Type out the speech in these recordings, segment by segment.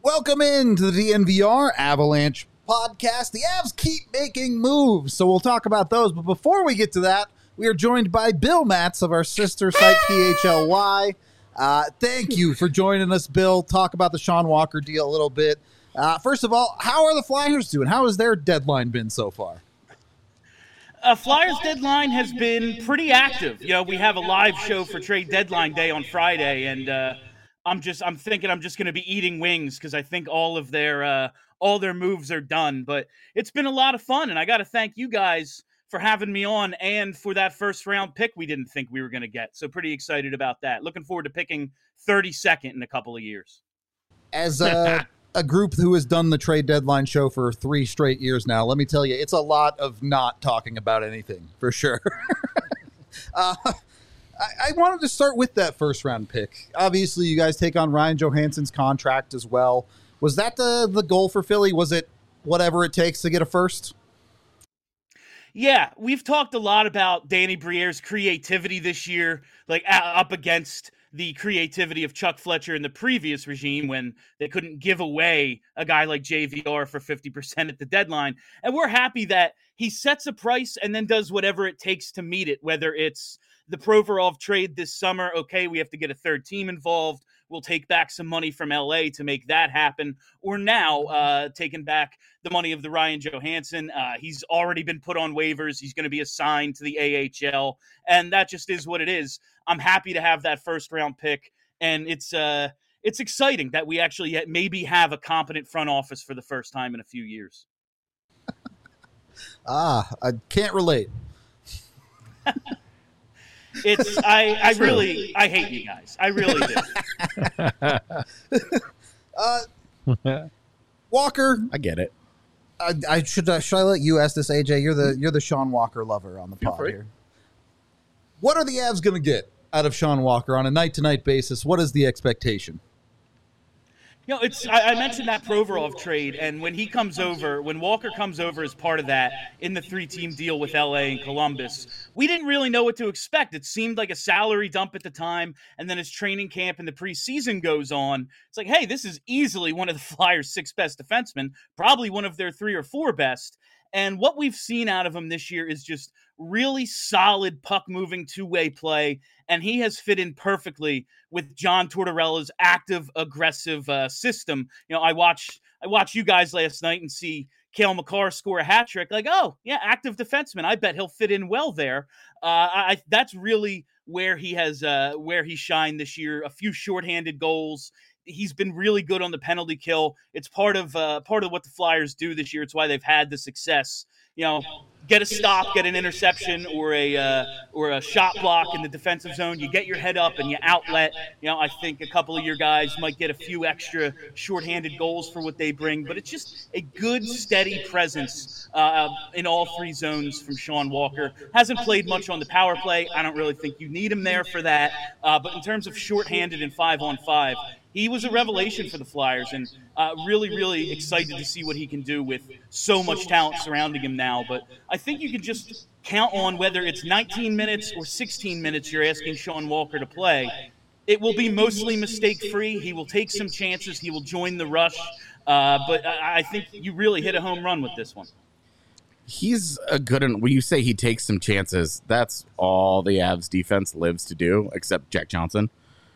Welcome into the DNVR Avalanche podcast. The Avs keep making moves, so we'll talk about those. But before we get to that, we are joined by Bill Matz of our sister site, PHLY. Thank you for joining us, Bill. Talk about the Sean Walker deal a little bit. First of all, how are the Flyers doing? How has their deadline been so far? Flyers deadline has been pretty active. You know, we have a live show for trade deadline day on Friday, and I'm thinking I'm just going to be eating wings because I think all their moves are done. But it's been a lot of fun, and I got to thank you guys for having me on and for that first round pick we didn't think we were going to get. So pretty excited about that. Looking forward to picking 32nd in a couple of years. As a group who has done the trade deadline show for 3 straight years now, let me tell you, it's a lot of not talking about anything, for sure. I wanted to start with that first round pick. Obviously, you guys take on Ryan Johansson's contract as well. Was that the goal for Philly? Was it whatever it takes to get a first? Yeah, we've talked a lot about Danny Briere's creativity this year, like up against the creativity of Chuck Fletcher in the previous regime when they couldn't give away a guy like JVR for 50% at the deadline. And we're happy that he sets a price and then does whatever it takes to meet it, whether it's the Provorov trade this summer. Okay, we have to get a third team involved. We'll take back some money from LA to make that happen. Or now taking back the money of the Ryan Johansson. He's already been put on waivers. He's going to be assigned to the AHL. And that just is what it is. I'm happy to have that first round pick. And it's exciting that we actually maybe have a competent front office for the first time in a few years. I can't relate. I hate you guys. I really do. Walker, I get it. Should I let you ask this, AJ? You're the Sean Walker lover on the pod here. What are the Avs going to get out of Sean Walker on a night-to-night basis? What is the expectation? You know, I mentioned that Provorov trade, and when Walker comes over as part of that in the 3-team deal with LA and Columbus, we didn't really know what to expect. It seemed like a salary dump at the time, and then as training camp and the preseason goes on, it's like, hey, this is easily one of the Flyers' 6 best defensemen, probably one of their 3 or 4 best. And what we've seen out of him this year is just really solid puck-moving two-way play, and he has fit in perfectly with John Tortorella's active, aggressive system. You know, I watched you guys last night and see Cale Makar score a hat trick. Like, oh, yeah, active defenseman. I bet he'll fit in well there. That's really where he shined this year. A few shorthanded goals. He's been really good on the penalty kill. It's part of what the Flyers do this year. It's why they've had the success. You know, get a stop, get an interception, or a shot block in the defensive zone. You get your head up and you outlet. You know, I think a couple of your guys might get a few extra shorthanded goals for what they bring, but it's just a good, steady presence in all 3 zones from Sean Walker. Hasn't played much on the power play. I don't really think you need him there for that. But in terms of shorthanded and 5-on-5, he was a revelation for the Flyers, and really, really excited to see what he can do with so much talent surrounding him now. But I think you can just count on whether it's 19 minutes or 16 minutes you're asking Sean Walker to play. It will be mostly mistake-free. He will take some chances. He will join the rush. But I think you really hit a home run with this one. He's a good one. When you say he takes some chances, that's all the Avs defense lives to do, except Jack Johnson.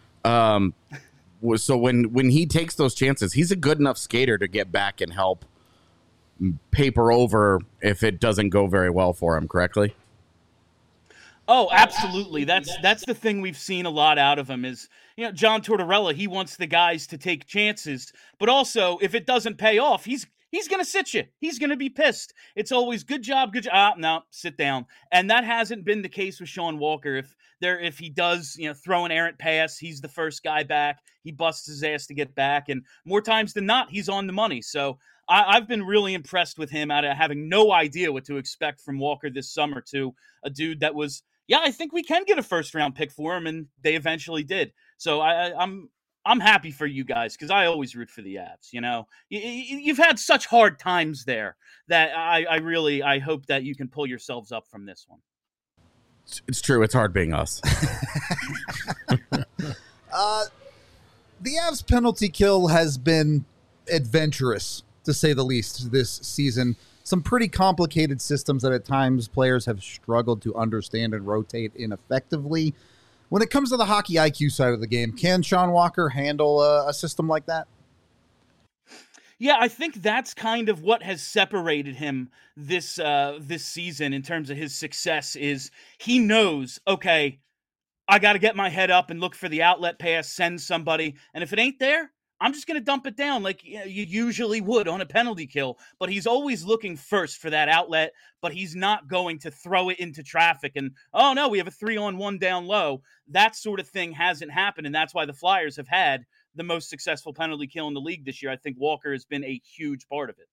So when he takes those chances, he's a good enough skater to get back and help paper over if it doesn't go very well for him, correctly? Oh, absolutely. That's the thing we've seen a lot out of him is, you know, John Tortorella, he wants the guys to take chances, but also if it doesn't pay off, he's going to sit you. He's going to be pissed. It's always good job. No, sit down. And that hasn't been the case with Sean Walker. If he does, you know, throw an errant pass, he's the first guy back. He busts his ass to get back. And more times than not, he's on the money. So I've been really impressed with him out of having no idea what to expect from Walker this summer to a dude that was, yeah, I think we can get a first round pick for him. And they eventually did. So I'm happy for you guys because I always root for the Avs. You know, you've had such hard times there that I hope that you can pull yourselves up from this one. It's true. It's hard being us. The Avs penalty kill has been adventurous, to say the least, this season. Some pretty complicated systems that at times players have struggled to understand and rotate in effectively. When it comes to the hockey IQ side of the game, can Sean Walker handle a system like that? Yeah, I think that's kind of what has separated him this season in terms of his success is he knows, okay, I got to get my head up and look for the outlet pass, send somebody, and if it ain't there, I'm just going to dump it down like you usually would on a penalty kill. But he's always looking first for that outlet, but he's not going to throw it into traffic and, oh no, we have a 3-on-1 down low. That sort of thing hasn't happened, and that's why the Flyers have had the most successful penalty kill in the league this year. I think Walker has been a huge part of it.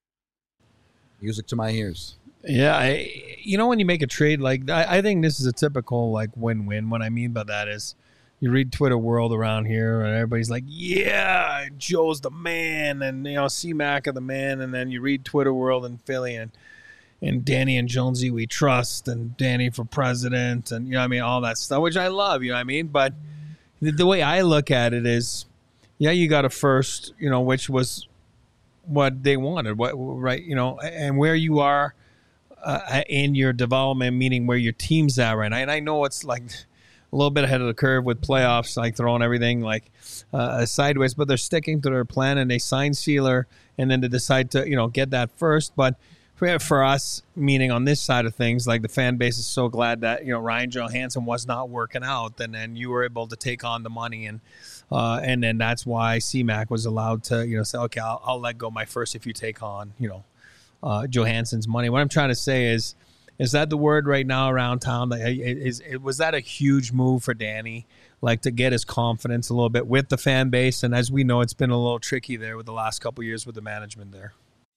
Music to my ears. Yeah, when you make a trade like that, I think this is a typical like win-win. What I mean by that is you read Twitter world around here and everybody's like, yeah, Joe's the man and, C-Mac are the man. And then you read Twitter world in Philly and Danny and Jonesy we trust and Danny for president and, all that stuff, which I love, But the way I look at it is, yeah, you got a first, which was what they wanted, right? And where you are in your development, meaning where your team's at right now. And I know it's like a little bit ahead of the curve with playoffs, like throwing everything like sideways, but they're sticking to their plan and they sign Sealer and then they decide to, get that first. But for us, meaning on this side of things, like the fan base is so glad that, Ryan Johansson was not working out and then you were able to take on the money and then that's why C-Mac was allowed to, say, okay, I'll let go my first if you take on, Johansson's money. What I'm trying to say is that the word right now around town? Was that a huge move for Danny, like to get his confidence a little bit with the fan base? And as we know, it's been a little tricky there with the last couple of years with the management there.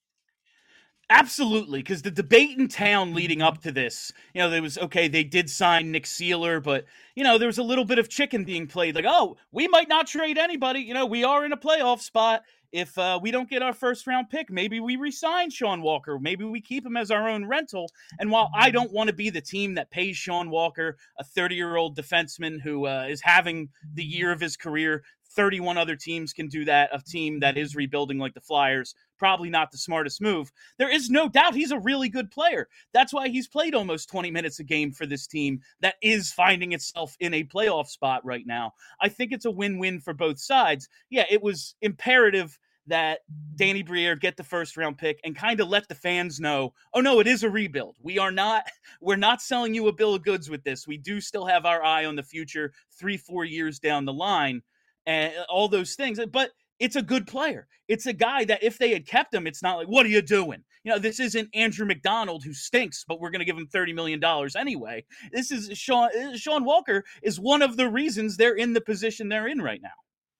Absolutely, because the debate in town leading up to this, there was, okay, they did sign Nick Sealer, but, there was a little bit of chicken being played. Like, oh, we might not trade anybody. We are in a playoff spot. If we don't get our first-round pick, maybe we re-sign Sean Walker. Maybe we keep him as our own rental. And while I don't want to be the team that pays Sean Walker, a 30-year-old defenseman who is having the year of his career, 31 other teams can do that. A team that is rebuilding like the Flyers, probably not the smartest move. There is no doubt he's a really good player. That's why he's played almost 20 minutes a game for this team that is finding itself in a playoff spot right now. I think it's a win-win for both sides. Yeah, it was imperative that Danny Briere get the first-round pick and kind of let the fans know, oh, no, it is a rebuild. We're not selling you a bill of goods with this. We do still have our eye on the future 3-4 years down the line and all those things. But it's a good player. It's a guy that if they had kept him, it's not like, what are you doing? This isn't Andrew McDonald who stinks, but we're going to give him $30 million anyway. This is Sean Walker is one of the reasons they're in the position they're in right now.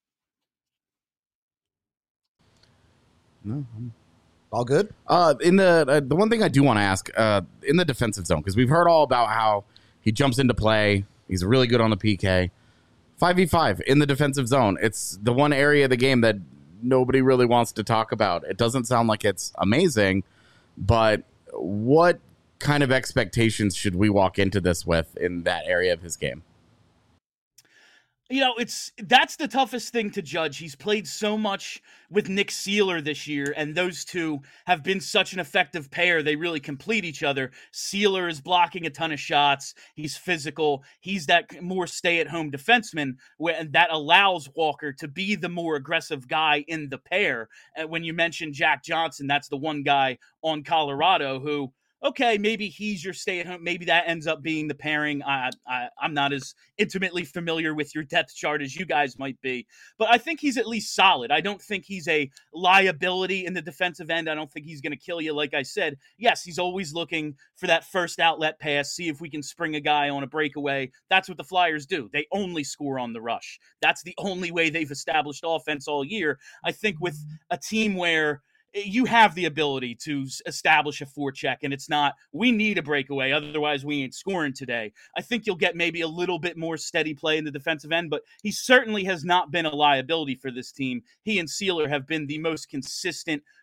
No, all good. In the one thing I do want to ask, in the defensive zone, because we've heard all about how he jumps into play. He's really good on the PK. 5v5 in the defensive zone. It's the one area of the game that nobody really wants to talk about. It doesn't sound like it's amazing, but what kind of expectations should we walk into this with in that area of his game? That's the toughest thing to judge. He's played so much with Nick Sealer this year, and those two have been such an effective pair. They really complete each other. Sealer is blocking a ton of shots. He's physical. He's that more stay-at-home defenseman, and that allows Walker to be the more aggressive guy in the pair. And when you mention Jack Johnson, that's the one guy on Colorado who, okay, maybe he's your stay-at-home. Maybe that ends up being the pairing. I'm not as intimately familiar with your depth chart as you guys might be, but I think he's at least solid. I don't think he's a liability in the defensive end. I don't think he's going to kill you. Like I said, yes, he's always looking for that first outlet pass, see if we can spring a guy on a breakaway. That's what the Flyers do. They only score on the rush. That's the only way they've established offense all year. I think with a team where you have the ability to establish a forecheck, and it's not, we need a breakaway, otherwise we ain't scoring today. I think you'll get maybe a little bit more steady play in the defensive end, but he certainly has not been a liability for this team. He and Sealer have been the most consistent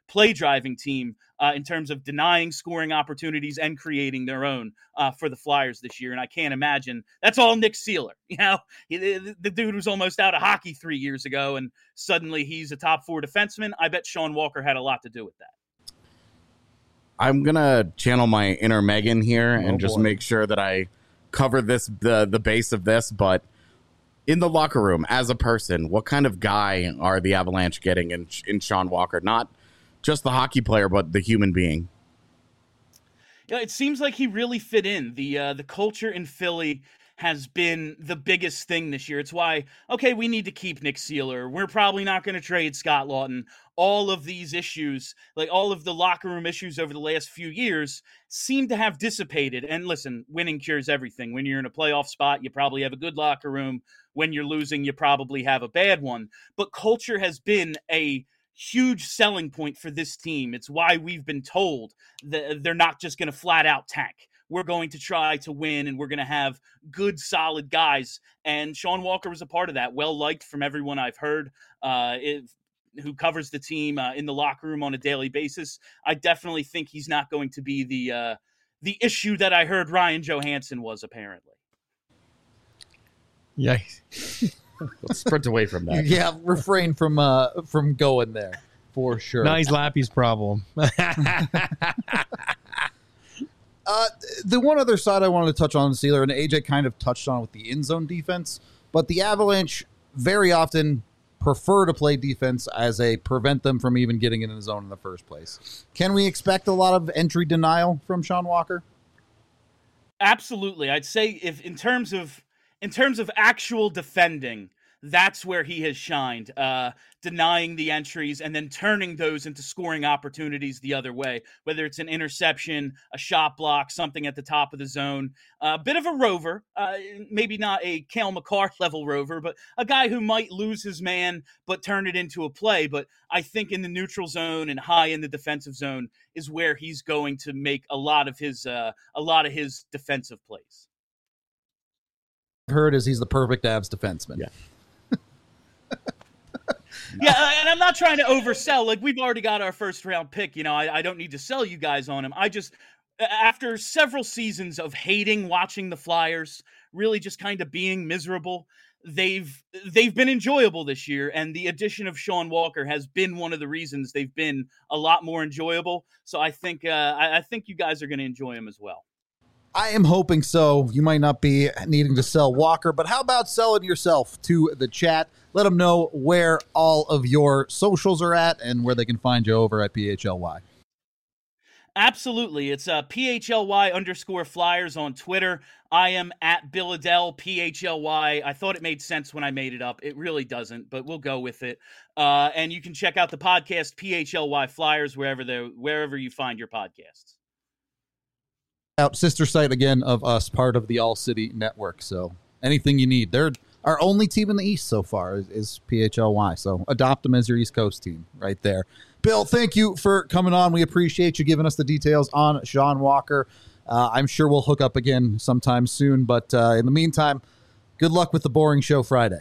play-driving team in terms of denying scoring opportunities and creating their own for the Flyers this year. And I can't imagine that's all Nick Seeler. The dude was almost out of hockey 3 years ago, and suddenly he's a top 4 defenseman. I bet Sean Walker had a lot to do with that. I'm going to channel my inner Megan here and just make sure that I cover the base of this. But in the locker room, as a person, what kind of guy are the Avalanche getting in Sean Walker? Not just the hockey player, but the human being. Yeah, it seems like he really fit in. The culture in Philly has been the biggest thing this year. It's why, okay, we need to keep Nick Seeler. We're probably not going to trade Scott Lawton. All of these issues, like all of the locker room issues over the last few years, seem to have dissipated. And listen, winning cures everything. When you're in a playoff spot, you probably have a good locker room. When you're losing, you probably have a bad one. But culture has been a huge selling point for this team. It's why we've been told that they're not just going to flat out tank. We're going to try to win, and we're going to have good, solid guys. And Sean Walker was a part of that, well-liked from everyone I've heard who covers the team in the locker room on a daily basis. I definitely think he's not going to be the issue that I heard Ryan Johansson was, apparently. Yeah. Let's sprint away from that. Yeah, refrain from going there for sure. Now he's Lappy's problem. The one other side I wanted to touch on, Seeler, and AJ kind of touched on with the in zone defense, but the Avalanche very often prefer to play defense as a prevent them from even getting in the zone in the first place. Can we expect a lot of entry denial from Sean Walker? Absolutely. I'd say if in terms of actual defending, that's where he has shined, denying the entries and then turning those into scoring opportunities the other way, whether it's an interception, a shot block, something at the top of the zone. A bit of a rover, maybe not a Cale Makar level rover, but a guy who might lose his man but turn it into a play. But I think in the neutral zone and high in the defensive zone is where he's going to make a lot of his defensive plays. Heard is he's the perfect Avs defenseman. Yeah. Yeah, and I'm not trying to oversell. Like, we've already got our first round pick. I don't need to sell you guys on him. I just, after several seasons of hating watching the Flyers, really just kind of being miserable, they've been enjoyable this year. And the addition of Sean Walker has been one of the reasons they've been a lot more enjoyable. So I think you guys are going to enjoy him as well. I am hoping so. You might not be needing to sell Walker, but how about selling yourself to the chat? Let them know where all of your socials are at and where they can find you over at PHLY. Absolutely. It's PHLY_Flyers on Twitter. I am at Billadell, PHLY. I thought it made sense when I made it up. It really doesn't, but we'll go with it. And you can check out the podcast, PHLY Flyers, wherever you find your podcasts. Out sister site again of us, part of the All City Network. So anything you need, they're our only team in the East so far is PHLY. So adopt them as your East Coast team right there. Bill, thank you for coming on. We appreciate you giving us the details on Sean Walker. I'm sure we'll hook up again sometime soon. But in the meantime, good luck with the boring show Friday.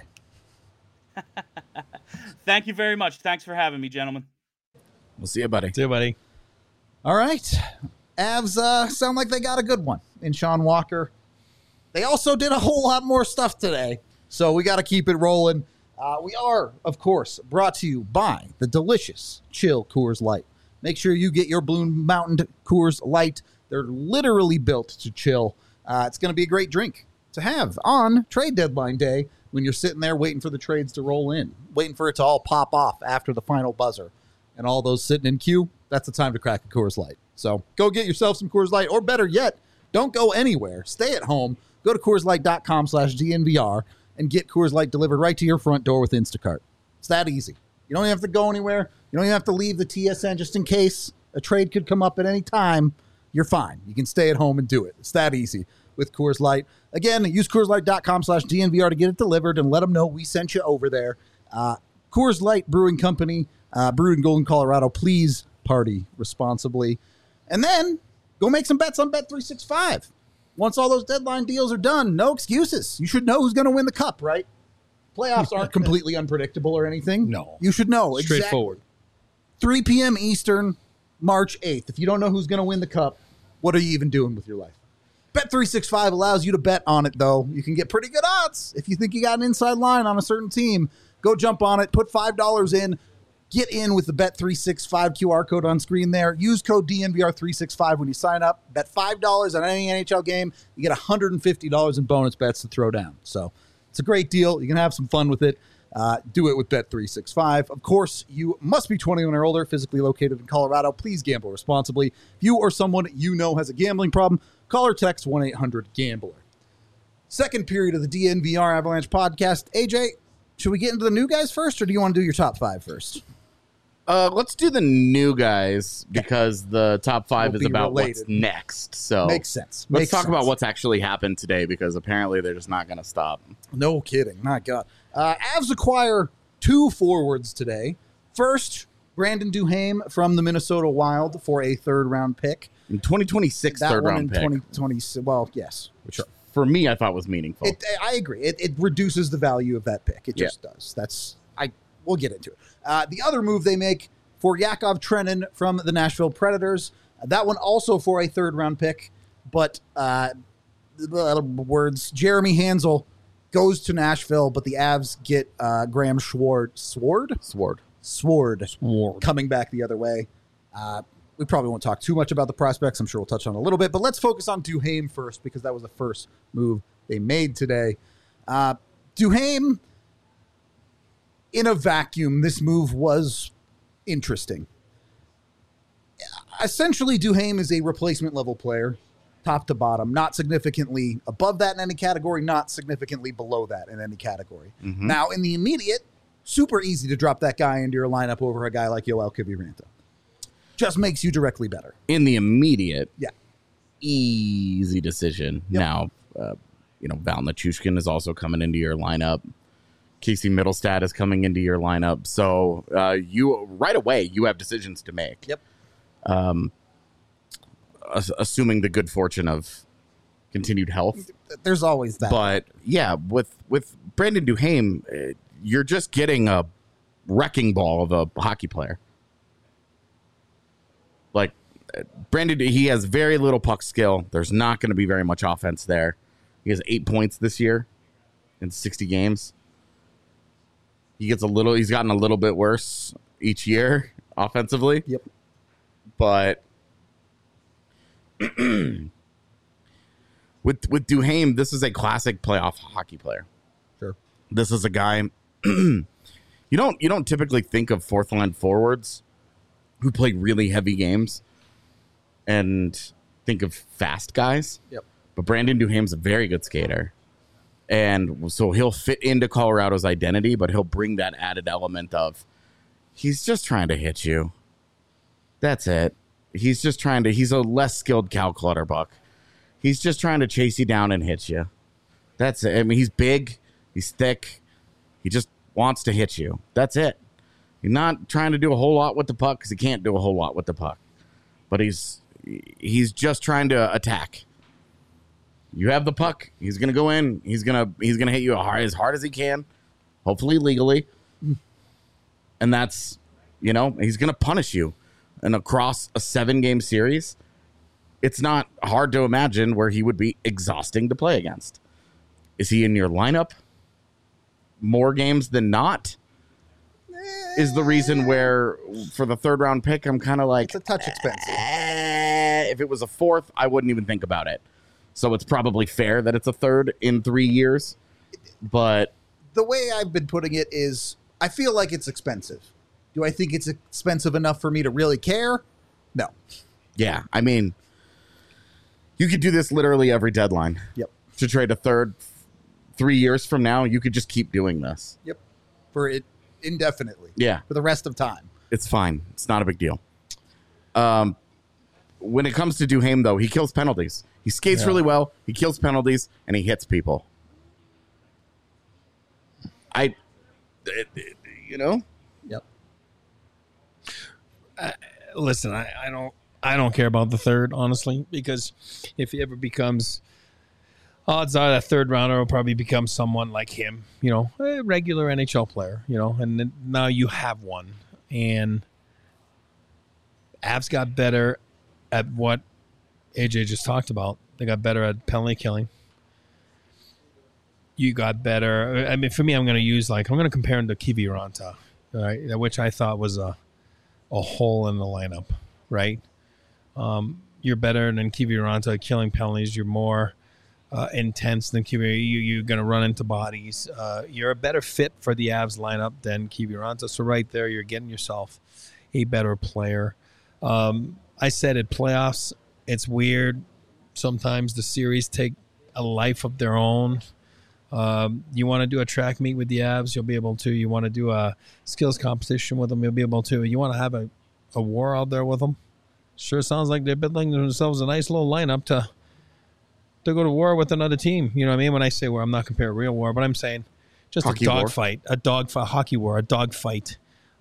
Thank you very much. Thanks for having me, gentlemen. We'll see you, buddy. See you, buddy. All right. Avs sound like they got a good one in Sean Walker. They also did a whole lot more stuff today, so we got to keep it rolling. We are, of course, brought to you by the delicious Chill Coors Light. Make sure you get your Blue Mountain Coors Light. They're literally built to chill. It's going to be a great drink to have on trade deadline day when you're sitting there waiting for the trades to roll in, waiting for it to all pop off after the final buzzer. And all those sitting in queue, that's the time to crack a Coors Light. So go get yourself some Coors Light, or better yet, don't go anywhere. Stay at home. Go to CoorsLight.com/DNVR and get Coors Light delivered right to your front door with Instacart. It's that easy. You don't even have to go anywhere. You don't even have to leave the TSN just in case a trade could come up at any time. You're fine. You can stay at home and do it. It's that easy with Coors Light. Again, use CoorsLight.com/DNVR to get it delivered and let them know we sent you over there. Coors Light Brewing Company, brewed in Golden, Colorado. Please party responsibly. And then go make some bets on Bet365. Once all those deadline deals are done, no excuses. You should know who's going to win the cup, right? Playoffs aren't completely unpredictable or anything. No. You should know. Straightforward. 3 p.m. Eastern, March 8th. If you don't know who's going to win the cup, what are you even doing with your life? Bet365 allows you to bet on it, though. You can get pretty good odds. If you think you got an inside line on a certain team, go jump on it. Put $5 in. Get in with the Bet365 QR code on screen there. Use code DNVR365 when you sign up. Bet $5 on any NHL game. You get $150 in bonus bets to throw down. So it's a great deal. You can have some fun with it. Do it with Bet365. Of course, you must be 21 or older, physically located in Colorado. Please gamble responsibly. If you or someone you know has a gambling problem, call or text 1-800-GAMBLER. Second period of the DNVR Avalanche podcast. AJ, should we get into the new guys first, or do you want to do your top 5 first? Let's do the new guys because the top 5 Will is be about related. what's next. So Makes sense. Let's Makes talk sense. about what's actually happened today because apparently they're just not going to stop. No kidding. My God. Avs acquire 2 forwards today. First, Brandon Duhaime from the Minnesota Wild for a third-round pick. In 2026 That third one round in pick, 2020. Well, yes. which for me I thought was meaningful. I agree. It reduces the value of that pick. It Yeah. just does. We'll get into it. The other move they make for Yakov Trenin from the Nashville Predators. That one also for a third-round pick, but Jeremy Hansel goes to Nashville, but the Avs get Graham Sword coming back the other way. We probably won't talk too much about the prospects. I'm sure we'll touch on a little bit, but let's focus on Duhaime first because that was the first move they made today. Duhaime, in a vacuum, this move was interesting. Essentially, Duhaime is a replacement level player, top to bottom, not significantly above that in any category, not significantly below that in any category. Mm-hmm. Now, in the immediate, super easy to drop that guy into your lineup over a guy like Yoel Kiviranta. Just makes you directly better. In the immediate, Yeah. easy decision. Yep. Now, Val Nichushkin is also coming into your lineup. Casey Middlestad is coming into your lineup. So you right away, you have decisions to make. Yep. Assuming the good fortune of continued health. There's always that. But yeah, with Brandon Duhaime, you're just getting a wrecking ball of a hockey player. Like Brandon, he has very little puck skill. There's not going to be very much offense there. He has 8 points this year in 60 games. He's gotten a little bit worse each year offensively. Yep. But with Duhaime, this is a classic playoff hockey player. Sure. This is a guy you don't typically think of fourth line forwards who play really heavy games and think of fast guys. Yep. But Brandon Duhaime's a very good skater. And so he'll fit into Colorado's identity, but he'll bring that added element of he's just trying to hit you. That's it. He's a less skilled Cal Clutterbuck. He's just trying to chase you down and hit you. That's it. I mean, he's big. He's thick. He just wants to hit you. That's it. He's not trying to do a whole lot with the puck because he can't do a whole lot with the puck. But he's just trying to attack. You have the puck. He's going to go in. He's going to hit you as hard as he can, hopefully legally. And that's, he's going to punish you. And across a 7-game series, it's not hard to imagine where he would be exhausting to play against. Is he in your lineup more games than not? Is the reason where for the third round pick, I'm kind of like, It's a touch expensive. if it was a fourth, I wouldn't even think about it. So it's probably fair that it's a third in 3 years. But The way I've been putting it is I feel like it's expensive. Do I think it's expensive enough for me to really care? No. yeah, I mean, you could do this literally every deadline. Yep. To trade a third 3 years from now, you could just keep doing this. Yep. For it indefinitely. Yeah. For the rest of time. It's fine. It's not a big deal. When it comes to Duhaime, though, he kills penalties. He skates really well. He kills penalties, and he hits people. Yep. Listen, I don't care about the third, honestly, because if he ever becomes, odds are that third rounder will probably become someone like him, a regular NHL player, and then now you have one. And Avs got better at what AJ just talked about. They got better at penalty killing. You got better. I mean, for me, I'm going to compare him to Kiviranta, right? Which I thought was a hole in the lineup, right? You're better than Kiviranta at killing penalties. You're more intense than Kiviranta. You're going to run into bodies. You're a better fit for the Avs lineup than Kiviranta. So right there, you're getting yourself a better player. I said at playoffs, it's weird. Sometimes the series take a life of their own. You want to do a track meet with the Avs, you'll be able to. You want to do a skills competition with them, you'll be able to. You want to have a war out there with them. Sure sounds like they're building themselves a nice little lineup to go to war with another team. You know what I mean? When I say war, I'm not comparing real war, but I'm saying just Hockey a dogfight, hockey war, a dogfight,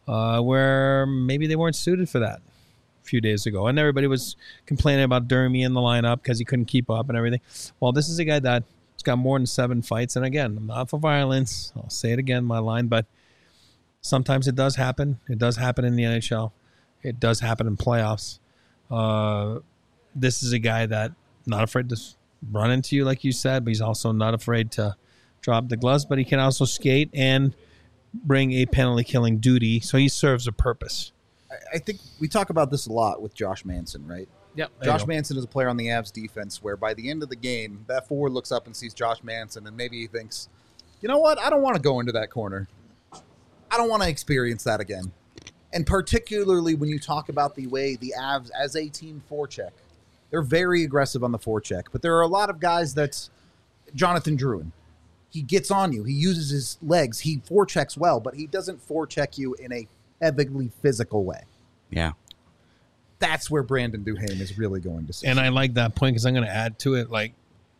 where maybe they weren't suited for that a few days ago. And everybody was complaining about Dermy in the lineup because he couldn't keep up and everything. Well, this is a guy that's got more than 7 fights. And again, I'm not for violence. I'll say it again, my line, but sometimes it does happen. It does happen in the NHL. It does happen in playoffs. This is a guy that not afraid to run into you, like you said, but he's also not afraid to drop the gloves, but he can also skate and bring a penalty killing duty. So he serves a purpose. I think we talk about this a lot with Josh Manson, right? Yep. Josh Manson is a player on the Avs defense where by the end of the game, that forward looks up and sees Josh Manson and maybe he thinks, you know what? I don't want to go into that corner. I don't want to experience that again. And particularly when you talk about the way the Avs as a team forecheck, they're very aggressive on the forecheck, but there are a lot of guys that's Jonathan Drouin. He gets on you. He uses his legs. He forechecks well, but he doesn't forecheck you in a heavily physical way. Yeah. That's where Brandon Duhaime is really going to see. And I like that point because I'm going to add to it. Like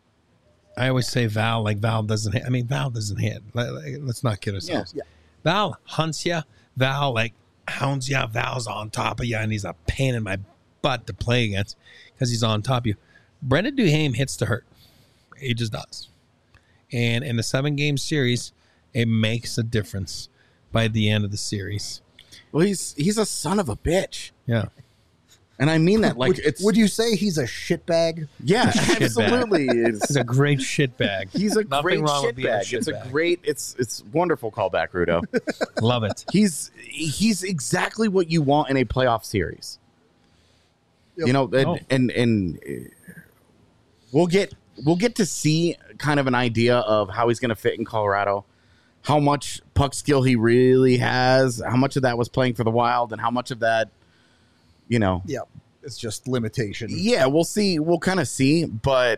I always say, Val doesn't hit. I mean, Val doesn't hit. Let's not kid ourselves. Yeah. Val hunts you. Val hounds you. Val's on top of you, and he's a pain in my butt to play against because he's on top of you. Brandon Duhaime hits to hurt. He just does. And in the 7-game series, it makes a difference by the end of the series. Well, he's a son of a bitch. Yeah. And I mean that would you say he's a shitbag? Yeah, Shitbag. absolutely. He's a great shitbag. He's a Nothing great wrong with being a shitbag. It's a shitbag. great it's wonderful callback, Rudo. Love it. He's exactly what you want in a playoff series. Yep. You know, and we'll get to see kind of an idea of how he's going to fit in Colorado, how much puck skill he really has, how much of that was playing for the Wild, and how much of that, you know. Yeah, it's just limitation. Yeah, we'll see. We'll kind of see, but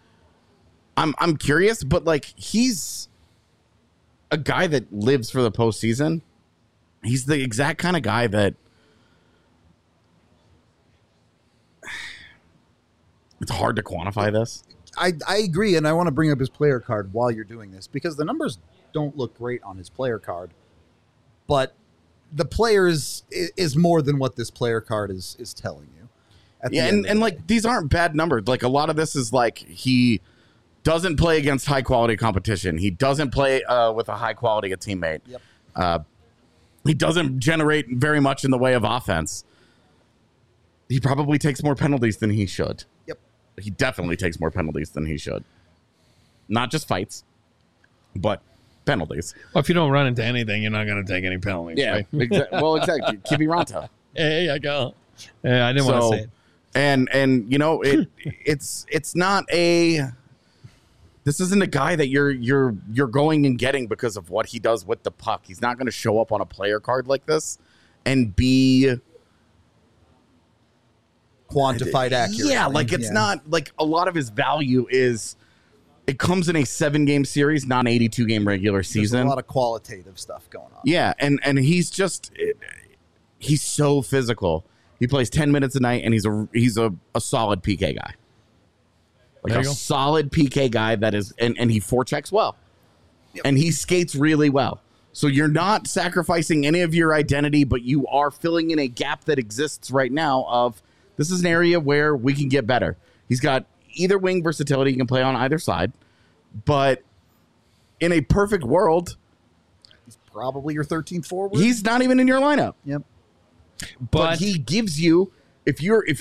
I'm curious. But like, he's a guy that lives for the postseason. He's the exact kind of guy that it's hard to quantify this. I agree, and I want to bring up his player card while you're doing this because the numbers don't look great on his player card, but the player is more than what this player card is telling you. Yeah, and like these aren't bad numbers. Like a lot of this is like he doesn't play against high quality competition. He doesn't play with a high quality teammate. Yep. He doesn't generate very much in the way of offense. He probably takes more penalties than he should. Yep. He definitely takes more penalties than he should. Not just fights, but penalties. Well, if you don't run into anything, you're not going to take any penalties. Yeah. Right? Well, exactly. Kiviranta. Hey, I go. Yeah, I didn't want to say it. And you know it's not a. This isn't a guy that you're going and getting because of what he does with the puck. He's not going to show up on a player card like this and be quantified accurate. Yeah, like it's not like a lot of his value is. It comes in a 7-game series, not an 82-game regular season. There's a lot of qualitative stuff going on. Yeah, and he's so physical. He plays 10 minutes a night, and he's a solid PK guy. Like a solid PK guy that is, and he forechecks well. Yep. And he skates really well. So you're not sacrificing any of your identity, but you are filling in a gap that exists right now of this is an area where we can get better. He's got either wing versatility. He can play on either side. But in a perfect world, he's probably your 13th forward. He's not even in your lineup. Yep. But he gives you if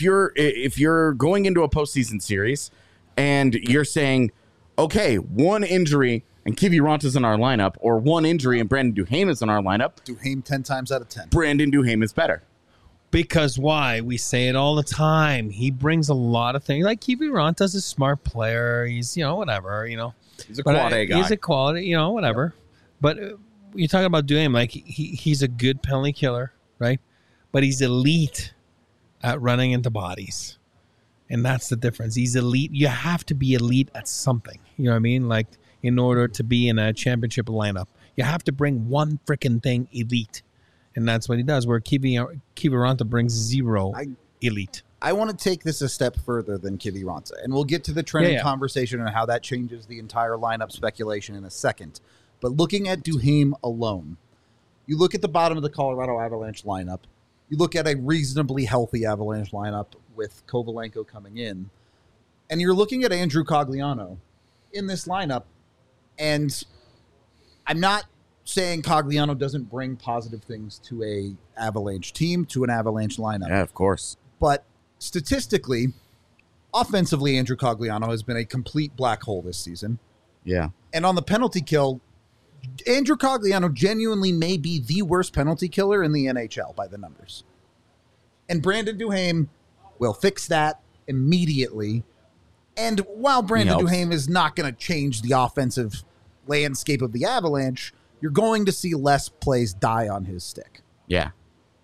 you're going into a postseason series and you're saying, okay, one injury and Kivi Ranta's in our lineup, or one injury and Brandon Duhaime is in our lineup, Duhaime 10 times out of 10. Brandon Duhaime is better. Because why? We say it all the time. He brings a lot of things. Like Kivi Ranta's a smart player. He's, whatever, He's a quality guy. He's a quality, whatever. But you're talking about Duhaime, like he's a good penalty killer, right? But he's elite at running into bodies. And that's the difference. He's elite. You have to be elite at something. You know what I mean? Like, in order to be in a championship lineup, you have to bring one freaking thing elite. And that's what he does, where Kivi Ranta brings zero elite. I want to take this a step further than Kivi Ranta, and we'll get to the trending conversation and how that changes the entire lineup speculation in a second. But looking at Duhaime alone, you look at the bottom of the Colorado Avalanche lineup, you look at a reasonably healthy Avalanche lineup with Kovalenko coming in, and you're looking at Andrew Cogliano in this lineup, and I'm not saying Cogliano doesn't bring positive things to a Avalanche team, to an Avalanche lineup. Yeah, of course. But statistically, offensively, Andrew Cogliano has been a complete black hole this season. Yeah. And on the penalty kill, Andrew Cogliano genuinely may be the worst penalty killer in the NHL by the numbers. And Brandon Duhaime will fix that immediately. And while Brandon Duhaime is not going to change the offensive landscape of the Avalanche, you're going to see less plays die on his stick. Yeah.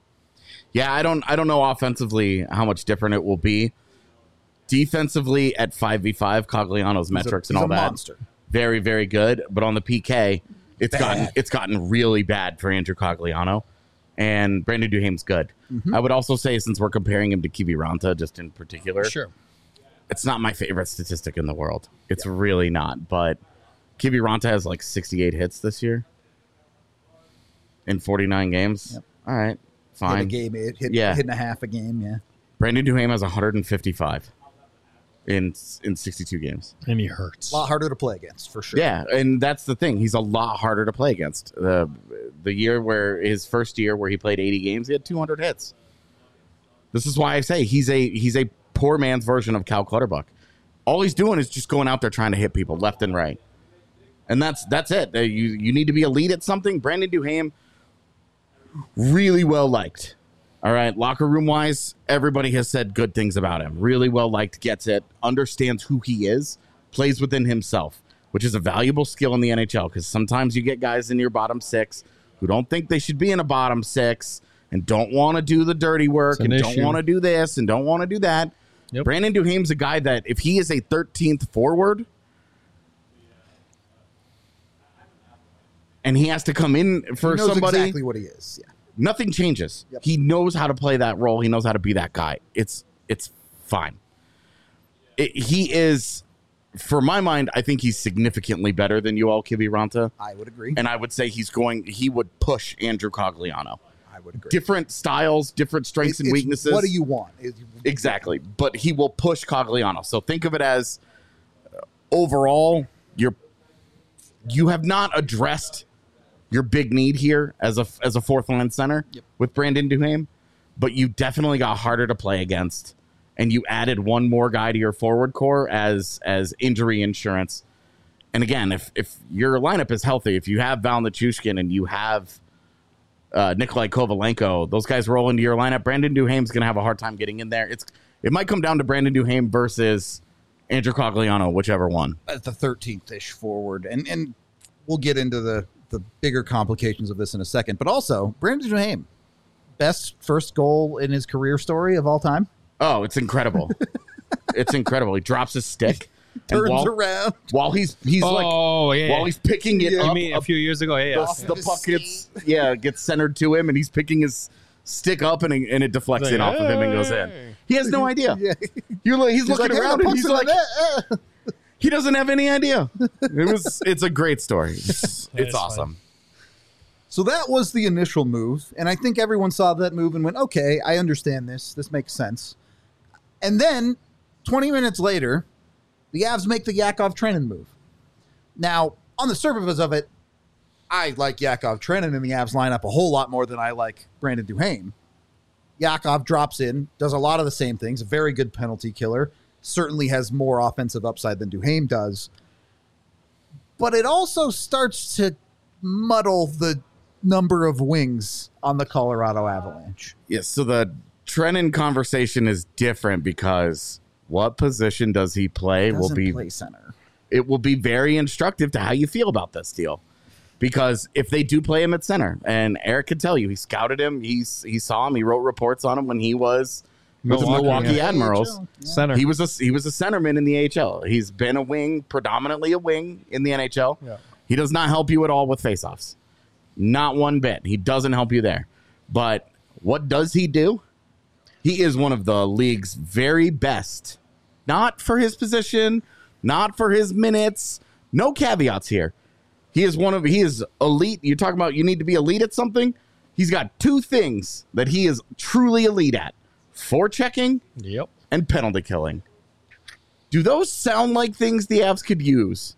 Yeah, I don't know offensively how much different it will be. Defensively at 5v5, Cogliano's metrics and all that. Monster. Very, very good. But on the PK, it's gotten really bad for Andrew Cogliano. And Brandon Duhaime's good. Mm-hmm. I would also say, since we're comparing him to Kivi Ranta just in particular, sure, it's not my favorite statistic in the world. It's really not. But Kivi Ranta has like 68 hits this year in 49 games. Yep. All right, fine. Hit a game, hit and a half a game, yeah. Brandon Duhaime has 155 in 62 games. And he hurts. A lot harder to play against, for sure. Yeah, and that's the thing. He's a lot harder to play against. The year where his first year where he played 80 games, he had 200 hits. This is why I say he's a poor man's version of Cal Clutterbuck. All he's doing is just going out there trying to hit people left and right. And that's it. You need to be elite at something. Brandon Duhaime, really well liked. All right, locker room wise, everybody has said good things about him. Really well liked, gets it, understands who he is, plays within himself, which is a valuable skill in the NHL, because sometimes you get guys in your bottom six who don't think they should be in a bottom six and don't want to do the dirty work and don't want to do this and don't want to do that. Yep. Brandon Duhaime's a guy that if he is a 13th forward and he has to come in for he knows somebody, exactly what he is. Yeah. Nothing changes. Yep. He knows how to play that role. He knows how to be that guy. It's fine. He is, for my mind, I think he's significantly better than Yoel Kivi Ranta. I would agree. And I would say he would push Andrew Cogliano. I would agree. Different styles, different strengths and weaknesses. What do you want? Exactly. But he will push Cogliano. So think of it as overall, you have not addressed your big need here as a fourth line center with Brandon Duhaime, but you definitely got harder to play against, and you added one more guy to your forward core as injury insurance. And again, if your lineup is healthy, if you have Val Nichushkin and you have Nikolai Kovalenko, those guys roll into your lineup, Brandon Duhaime's going to have a hard time getting in there. It might come down to Brandon Duhaime versus Andrew Cogliano, whichever one. At the 13th-ish forward, and we'll get into the bigger complications of this in a second. But also, Brandon Duhaime, best first goal in his career story of all time. Oh, it's incredible. It's incredible. He drops his stick. Turns around. While he's while he's picking it up. You mean a few years ago? The puck gets centered to him, and he's picking his stick up, and it deflects in off of him and goes in. He has no idea. Yeah. He's looking around, and he's like, he doesn't have any idea. It's a great story. It's awesome. Fun. So that was the initial move, and I think everyone saw that move and went, okay, I understand this. This makes sense. And then 20 minutes later, the Avs make the Yakov-Trenin move. Now, on the surface of it, I like Yakov-Trenin in the Avs lineup a whole lot more than I like Brandon Duhaime. Yakov drops in, does a lot of the same things, a very good penalty killer, certainly has more offensive upside than Duhaime does. But it also starts to muddle the number of wings on the Colorado Avalanche. Yes, so the Trenin conversation is different because what position does he play will be play center. It will be very instructive to how you feel about this deal. Because if they do play him at center, and Eric could tell you, he scouted him, he saw him, he wrote reports on him when he was with the Milwaukee Admirals. Center. He was a centerman in the AHL. He's been a wing, predominantly a wing in the NHL. Yeah. He does not help you at all with faceoffs. Not one bit. He doesn't help you there. But what does he do? He is one of the league's very best. Not for his position, not for his minutes. No caveats here. He is elite. You talk about you need to be elite at something. He's got two things that he is truly elite at: forechecking and penalty killing. Do those sound like things the Avs could use?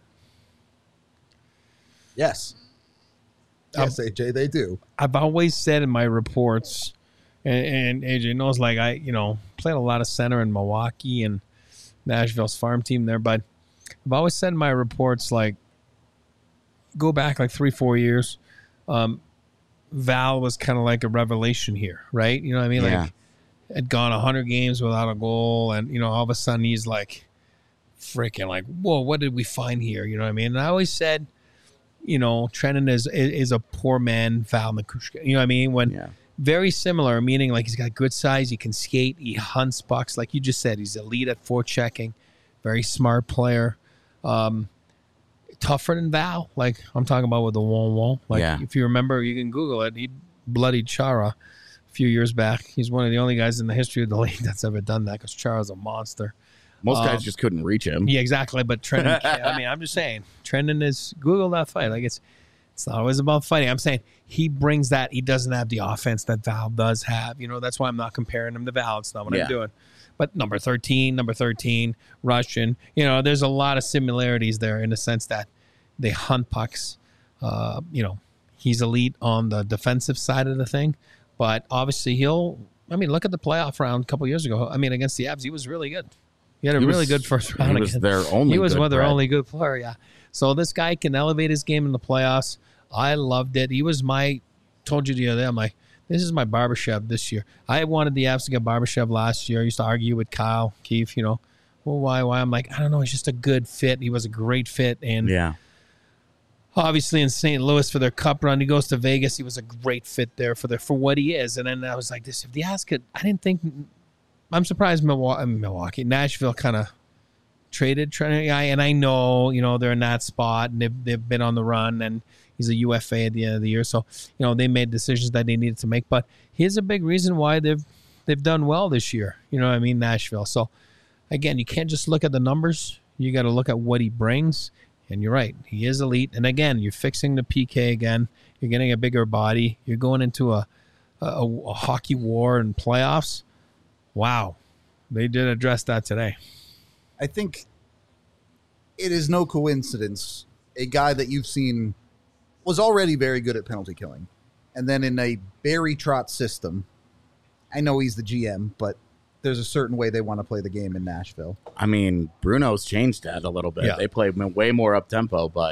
Yes. Yes, AJ, they do. I've always said in my reports, and AJ knows, like I, played a lot of center in Milwaukee and Nashville's farm team there, but I've always said in my reports, like, go back like 3-4 years. Val was kind of like a revelation here, right? You know what I mean? Yeah. Like, had gone 100 games without a goal, and all of a sudden he's like, freaking like, whoa, what did we find here? You know what I mean? And I always said, Trenin is a poor man Val Nichushkin. You know what I mean? When very similar, meaning like he's got good size, he can skate, he hunts pucks, like you just said, he's elite at forechecking, very smart player. Tougher than Val, like I'm talking about with the wall. Like if you remember, you can Google it. He bloodied Chara a few years back. He's one of the only guys in the history of the league that's ever done that, because Chara's a monster. Most guys just couldn't reach him. Yeah, exactly. But Trenin, I'm just saying, Trenin is, Google that fight. Like it's not always about fighting. I'm saying he brings that. He doesn't have the offense that Val does have. That's why I'm not comparing him to Val. It's not what I'm doing. But number 13, Russian, there's a lot of similarities there in the sense that they hunt pucks. He's elite on the defensive side of the thing, but obviously look at the playoff round a couple years ago. Against the Avs, he was really good. He had a really good first round. He was their only He was good one of their Brett. only good player, yeah. So this guy can elevate his game in the playoffs. I loved it. He was told you the other day, I'm like, this is my Barbashev this year. I wanted the Avs to get Barbashev last year. I used to argue with Kyle Keefe, well, why? I'm like, I don't know. He's just a good fit. He was a great fit. And obviously in St. Louis for their cup run, he goes to Vegas. He was a great fit there for what he is. And then I was like, if the Avs could, I didn't think, I'm surprised Nashville kind of traded Trenin guy. And I know, they're in that spot and they've been on the run, and he's a UFA at the end of the year. So, they made decisions that they needed to make. But here's a big reason why they've done well this year. Nashville. So, again, you can't just look at the numbers. You got to look at what he brings. And you're right. He is elite. And, again, you're fixing the PK again. You're getting a bigger body. You're going into a hockey war and playoffs. Wow. They did address that today. I think it is no coincidence a guy that you've seen was already very good at penalty killing. And then in a Barry Trotz system, I know he's the GM, but there's a certain way they want to play the game in Nashville. Bruno's changed that a little bit. Yeah. They play way more up-tempo, but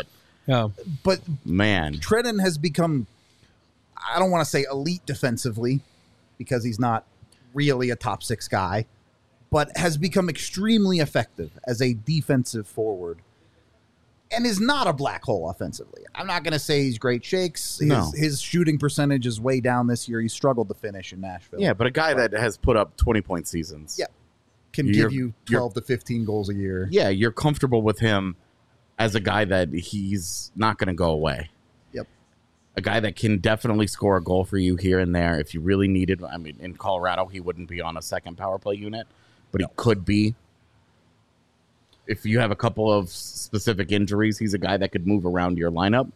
man. Trenin has become, I don't want to say elite defensively, because he's not really a top six guy, but has become extremely effective as a defensive forward and is not a black hole offensively. I'm not going to say he's great shakes. His shooting percentage is way down this year. He struggled to finish in Nashville. Yeah, but a guy that has put up 20-point seasons. Yeah. Can give you 12 to 15 goals a year. Yeah, you're comfortable with him as a guy that he's not going to go away. Yep. A guy that can definitely score a goal for you here and there if you really needed. In Colorado, he wouldn't be on a second power play unit, but he could be. If you have a couple of specific injuries, he's a guy that could move around your lineup.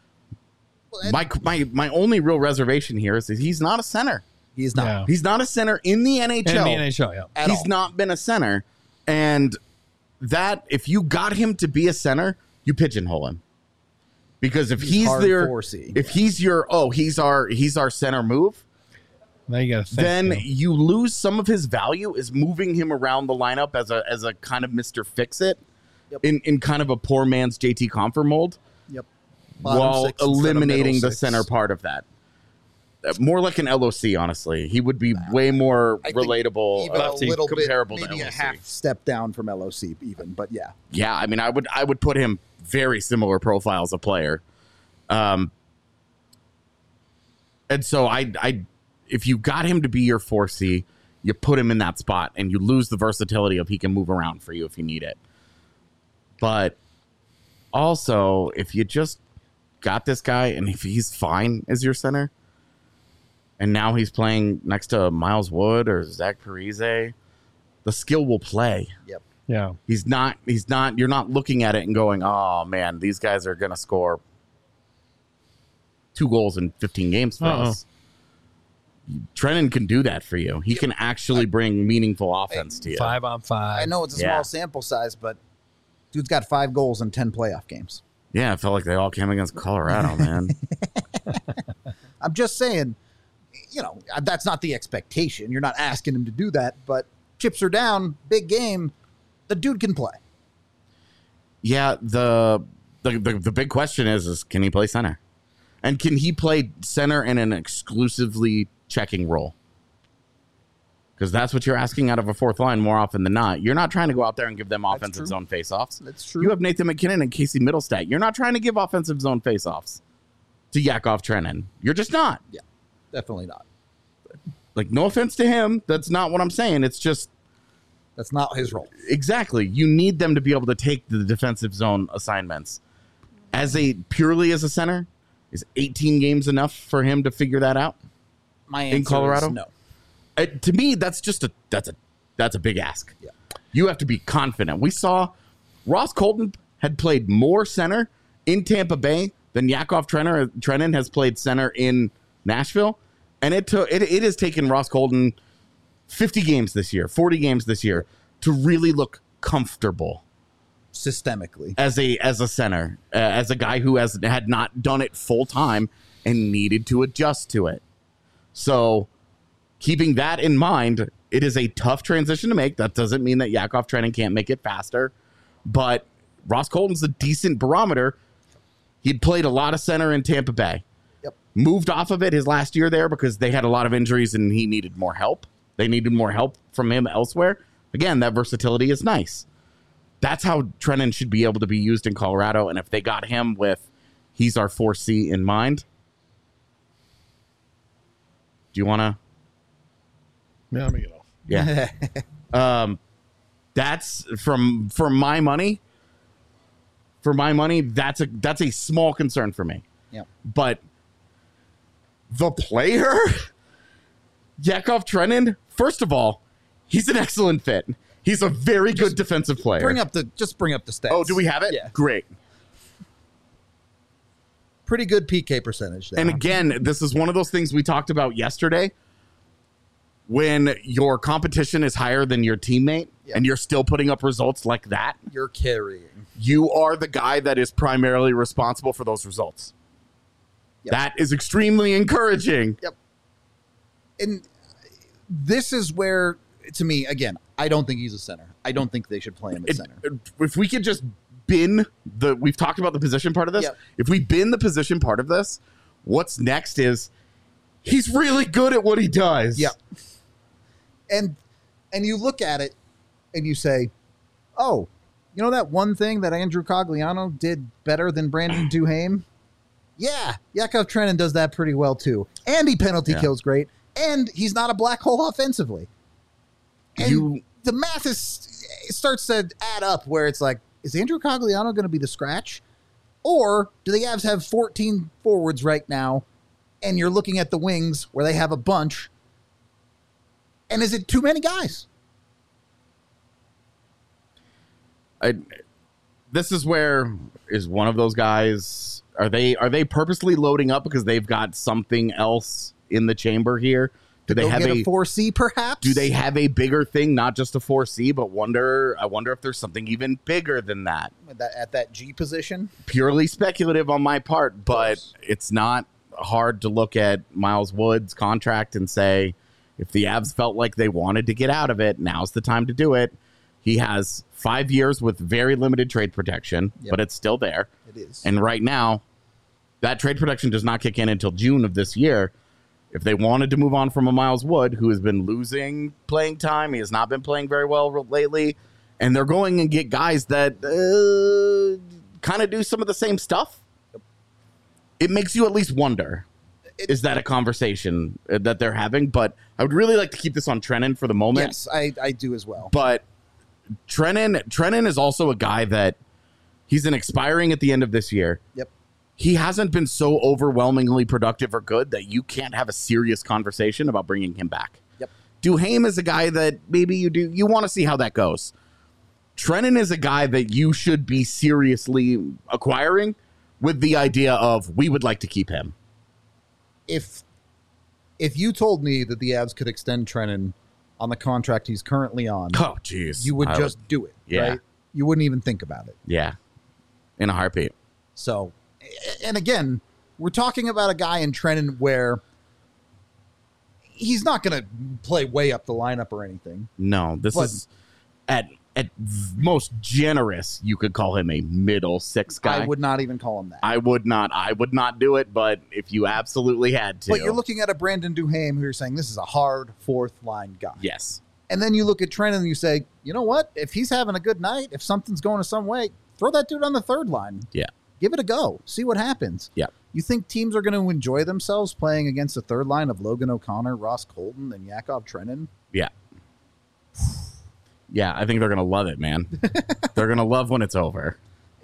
My only real reservation here is that he's not a center. He's not. Yeah. He's not a center in the NHL. In the NHL, yeah. He's not been a center. And that, if you got him to be a center, you pigeonhole him. Because if he's hard there, 4C. if he's your, he's our center move, Now you got to think. then you lose some of his value is moving him around the lineup as a kind of Mr. Fix-It in kind of a poor man's JT Compher mold. Yep. Bottom While six instead of eliminating middle the six. center part of that. More like an LOC, honestly. He would be way more I think relatable, even a little bit, comparable maybe to a LOC. half step down from LOC even, but yeah. Yeah, I mean, I would put him very similar profiles of player. And so I if you got him to be your 4C, you put him in that spot and you lose the versatility of he can move around for you if you need it. But also, if you just got this guy and if he's fine as your center, and now he's playing next to Miles Wood or Zach Parise, the skill will play. Yep. Yeah. He's not, you're not looking at it and going, oh man, these guys are going to score 2 goals in 15 games for us. Trennan can do that for you. He can actually bring meaningful offense to you. 5-on-5. I know it's a Yeah. small sample size, but dude's got 5 goals in 10 playoff games. Yeah, I felt like they all came against Colorado, man. I'm just saying, that's not the expectation. You're not asking him to do that, but chips are down, big game, the dude can play. Yeah, the big question is can he play center? And can he play center in an exclusively checking role? Because that's what you're asking out of a fourth line more often than not. You're not trying to go out there and give them offensive true. zone faceoffs. That's true. You have Nathan McKinnon and Casey Middlestat. You're not trying to give offensive zone faceoffs to Yakov Trenin. You're just not. Yeah, definitely not. Like, no offense to him. That's not what I'm saying. It's just That's not his role. exactly. You need them to be able to take the defensive zone assignments. Purely as a center, is 18 games enough for him to figure that out? My answer In Colorado? is no. To me, that's just that's a big ask. Yeah. You have to be confident. We saw Ross Colton had played more center in Tampa Bay than Yakov Trenin has played center in Nashville, and it has taken Ross Colton 50 games this year, 40 games this year to really look comfortable Systemically. as a center, as a guy who had not done it full time and needed to adjust to it. So, keeping that in mind, it is a tough transition to make. That doesn't mean that Yakov Trenin can't make it faster, but Ross Colton's a decent barometer. He'd played a lot of center in Tampa Bay. Yep. Moved off of it his last year there because they had a lot of injuries and he needed more help. They needed more help from him elsewhere. Again, that versatility is nice. That's how Trenin should be able to be used in Colorado. And if they got him with he's our 4C in mind, do you want to? Yeah, let me get off. Yeah. That's for my money. For my money, that's a small concern for me. Yep. But the player, Yakov Trenin, first of all, he's an excellent fit. He's a very good defensive player. Bring up the stats. Oh, do we have it? Yeah. Great. Pretty good PK percentage there. And again, this is one of those things we talked about yesterday. When your competition is higher than your teammate and you're still putting up results like that, You're carrying. you are the guy that is primarily responsible for those results. Yep. That is extremely encouraging. Yep. And this is where, to me, again, I don't think he's a center. I don't think they should play him at center. If we could just we've talked about the position part of this. Yep. If we bin the position part of this, what's next is he's really good at what he does. Yeah. And you look at it and you say, oh, you know that one thing that Andrew Cogliano did better than Brandon Duhaime? Yeah, Yakov Trenin does that pretty well too. And he penalty kills great. And he's not a black hole offensively. And the math it starts to add up where it's like, is Andrew Cogliano going to be the scratch? Or do the Avs have 14 forwards right now and you're looking at the wings where they have a bunch? And is it too many guys? This is where is one of those guys. Are they purposely loading up because they've got something else in the chamber here? Do they have a 4C perhaps? Do they have a bigger thing, not just a 4C, but I wonder if there's something even bigger than that. At that G position? Purely speculative on my part, but it's not hard to look at Miles Wood's contract and say, if the Avs felt like they wanted to get out of it, now's the time to do it. He has 5 years with very limited trade protection, but it's still there. It is. And right now, that trade protection does not kick in until June of this year. If they wanted to move on from a Miles Wood, who has been losing playing time, he has not been playing very well lately, and they're going and get guys that kind of do some of the same stuff, it makes you at least wonder, is that a conversation that they're having? But I would really like to keep this on Trenin for the moment. Yes, I do as well. But Trenin is also a guy that he's an expiring at the end of this year. Yep. He hasn't been so overwhelmingly productive or good that you can't have a serious conversation about bringing him back. Yep. Duhaime is a guy that maybe you want to see how that goes. Trenin is a guy that you should be seriously acquiring with the idea of, we would like to keep him. If you told me that the Avs could extend Trenin on the contract he's currently on, oh jeez, you would just do it. Yeah. Right? You wouldn't even think about it. Yeah, in a heartbeat. So, and again, we're talking about a guy in Trenin where he's not going to play way up the lineup or anything. No, this is at most generous. You could call him a middle six guy. I would not even call him that. I would not do it. But if you absolutely had to, but you're looking at a Brandon Duhaime who you're saying this is a hard fourth line guy. Yes. And then you look at Trenin and you say, you know what? If he's having a good night, if something's going to some way, throw that dude on the third line. Yeah. Give it a go. See what happens. Yeah. You think teams are going to enjoy themselves playing against a third line of Logan O'Connor, Ross Colton, and Yakov Trenin? Yeah. Yeah, I think they're going to love it, man. They're going to love when it's over.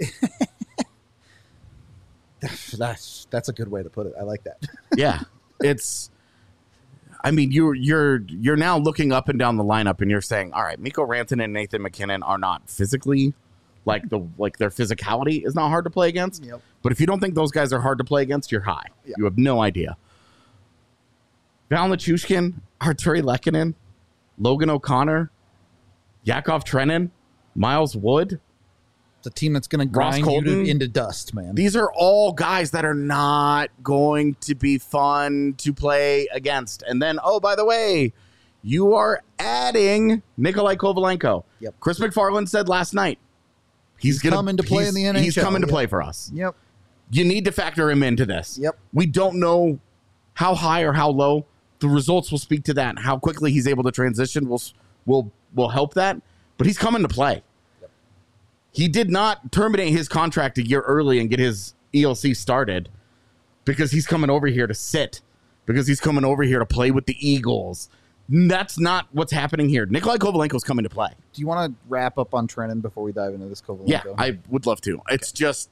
That's a good way to put it. I like that. Yeah. It's, I mean, you're now looking up and down the lineup and you're saying, all right, Mikko Rantanen and Nathan McKinnon are not physically like their physicality is not hard to play against. Yep. But if you don't think those guys are hard to play against, you're high. Yeah. You have no idea. Val Nichushkin, Arturi Lehkonen, Logan O'Connor, Yakov Trenin, Miles Wood. It's a team that's going to grind you into dust, man. These are all guys that are not going to be fun to play against. And then, oh, by the way, you are adding Nikolai Kovalenko. Yep. Chris McFarland said last night, he's coming to play in the NHL. He's coming to play for us. Yep. You need to factor him into this. Yep. We don't know how high or how low. The results will speak to that. How quickly he's able to transition will help that. But he's coming to play. Yep. He did not terminate his contract a year early and get his ELC started because he's coming over here to sit, because he's coming over here to play with the Eagles. That's not what's happening here. Nikolai Kovalenko's coming to play. Do you want to wrap up on Trenin before we dive into this Kovalenko? Yeah, I would love to. It's just...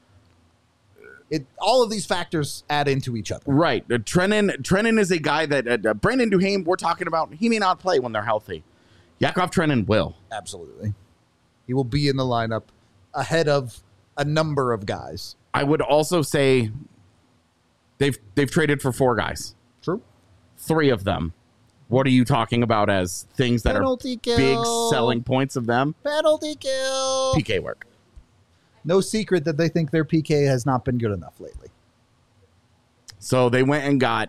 all of these factors add into each other. Right. Trenin is a guy that... Brandon Duhaime, we're talking about, he may not play when they're healthy. Yakov Trenin will. Absolutely. He will be in the lineup ahead of a number of guys. I would also say they've traded for 4 guys. True. 3 of them. What are you talking about as things that Penalty are kill. big selling points of them? Penalty kill. PK work. No secret that they think their PK has not been good enough lately. So they went and got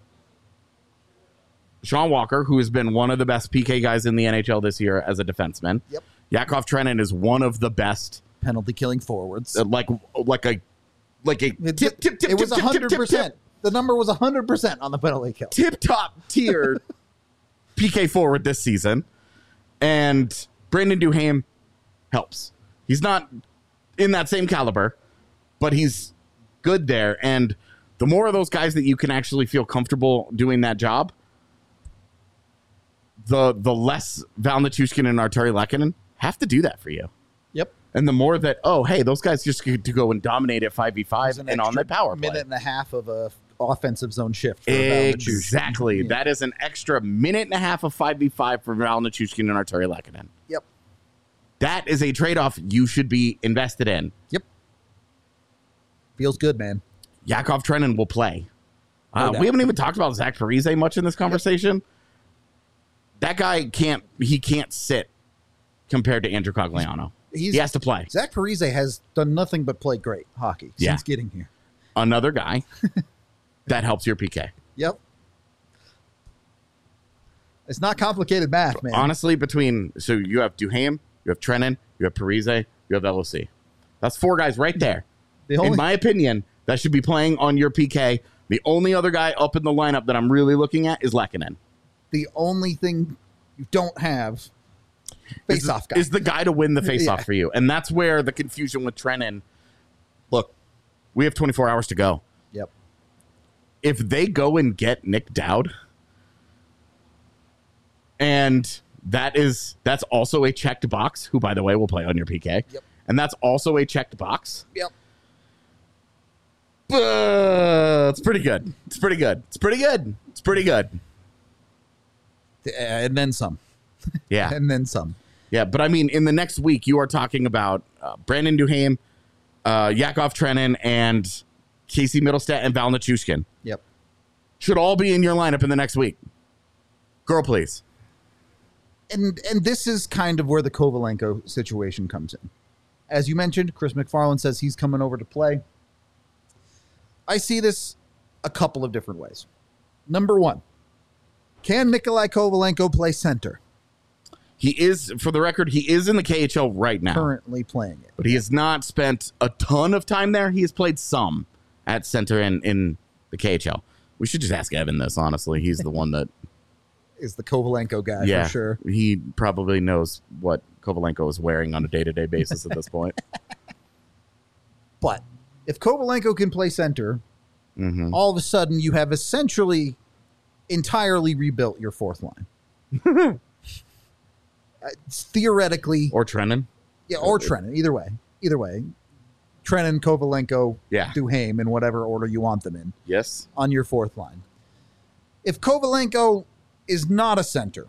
Sean Walker, who has been one of the best PK guys in the NHL this year as a defenseman. Yep. Yakov Trenin is one of the best penalty killing forwards. Like a tip. It was 100%. The number was 100% on the penalty kill. Tip top tier PK forward this season. And Brandon Duhaime helps. He's not in that same caliber, but he's good there. And the more of those guys that you can actually feel comfortable doing that job, the less Val Nichushkin and Arturi Lehkonen have to do that for you. Yep. And the more that, oh, hey, those guys just get to go and dominate at 5v5 and on the power play. Minute and a half of a offensive zone shift. For Exactly. Yeah. That is an extra minute and a half of 5v5 for Val Nichushkin and Arturi Lehkonen. Yep. That is a trade-off you should be invested in. Yep. Feels good, man. Yakov Trenin will play. No we haven't even talked about Zach Parise much in this conversation. Yep. That guy can't sit compared to Andrew Cogliano. He has to play. Zach Parise has done nothing but play great hockey since getting here. Another guy that helps your PK. Yep. It's not complicated math, man. Honestly, so you have Duhaime, you have Trenin, you have Parise, you have LOC. That's 4 guys right there. In my opinion, that should be playing on your PK. The only other guy up in the lineup that I'm really looking at is Lehkonen. The only thing you don't have face-off guy is the guy to win the face-off for you. And that's where the confusion with Trenin. Look, we have 24 hours to go. Yep. If they go and get Nick Dowd, and that's also a checked box, who, by the way, will play on your PK. Yep. And that's also a checked box. Yep. It's pretty good. It's pretty good. It's pretty good. It's pretty good. And then some. Yeah. And then some. Yeah, but I mean, in the next week, you are talking about Brandon Duhaime, Yakov Trenin, and Casey Middlestat and Val Nichushkin. Yep. Should all be in your lineup in the next week. Girl, please. And this is kind of where the Kovalenko situation comes in. As you mentioned, Chris McFarland says he's coming over to play. I see this a couple of different ways. Number one, can Nikolai Kovalenko play center? He is, for the record, he is in the KHL right now. Currently playing it. But he has not spent a ton of time there. He has played some at center in the KHL. We should just ask Evan this, honestly. He's the one that is the Kovalenko guy, for sure. He probably knows what Kovalenko is wearing on a day-to-day basis at this point. But if Kovalenko can play center, all of a sudden you have essentially entirely rebuilt your fourth line. Theoretically. Or Trenin. Yeah, or Trenin. Either way. Trenin, Kovalenko, Duhaime, in whatever order you want them in. Yes. On your fourth line. If Kovalenko is not a center,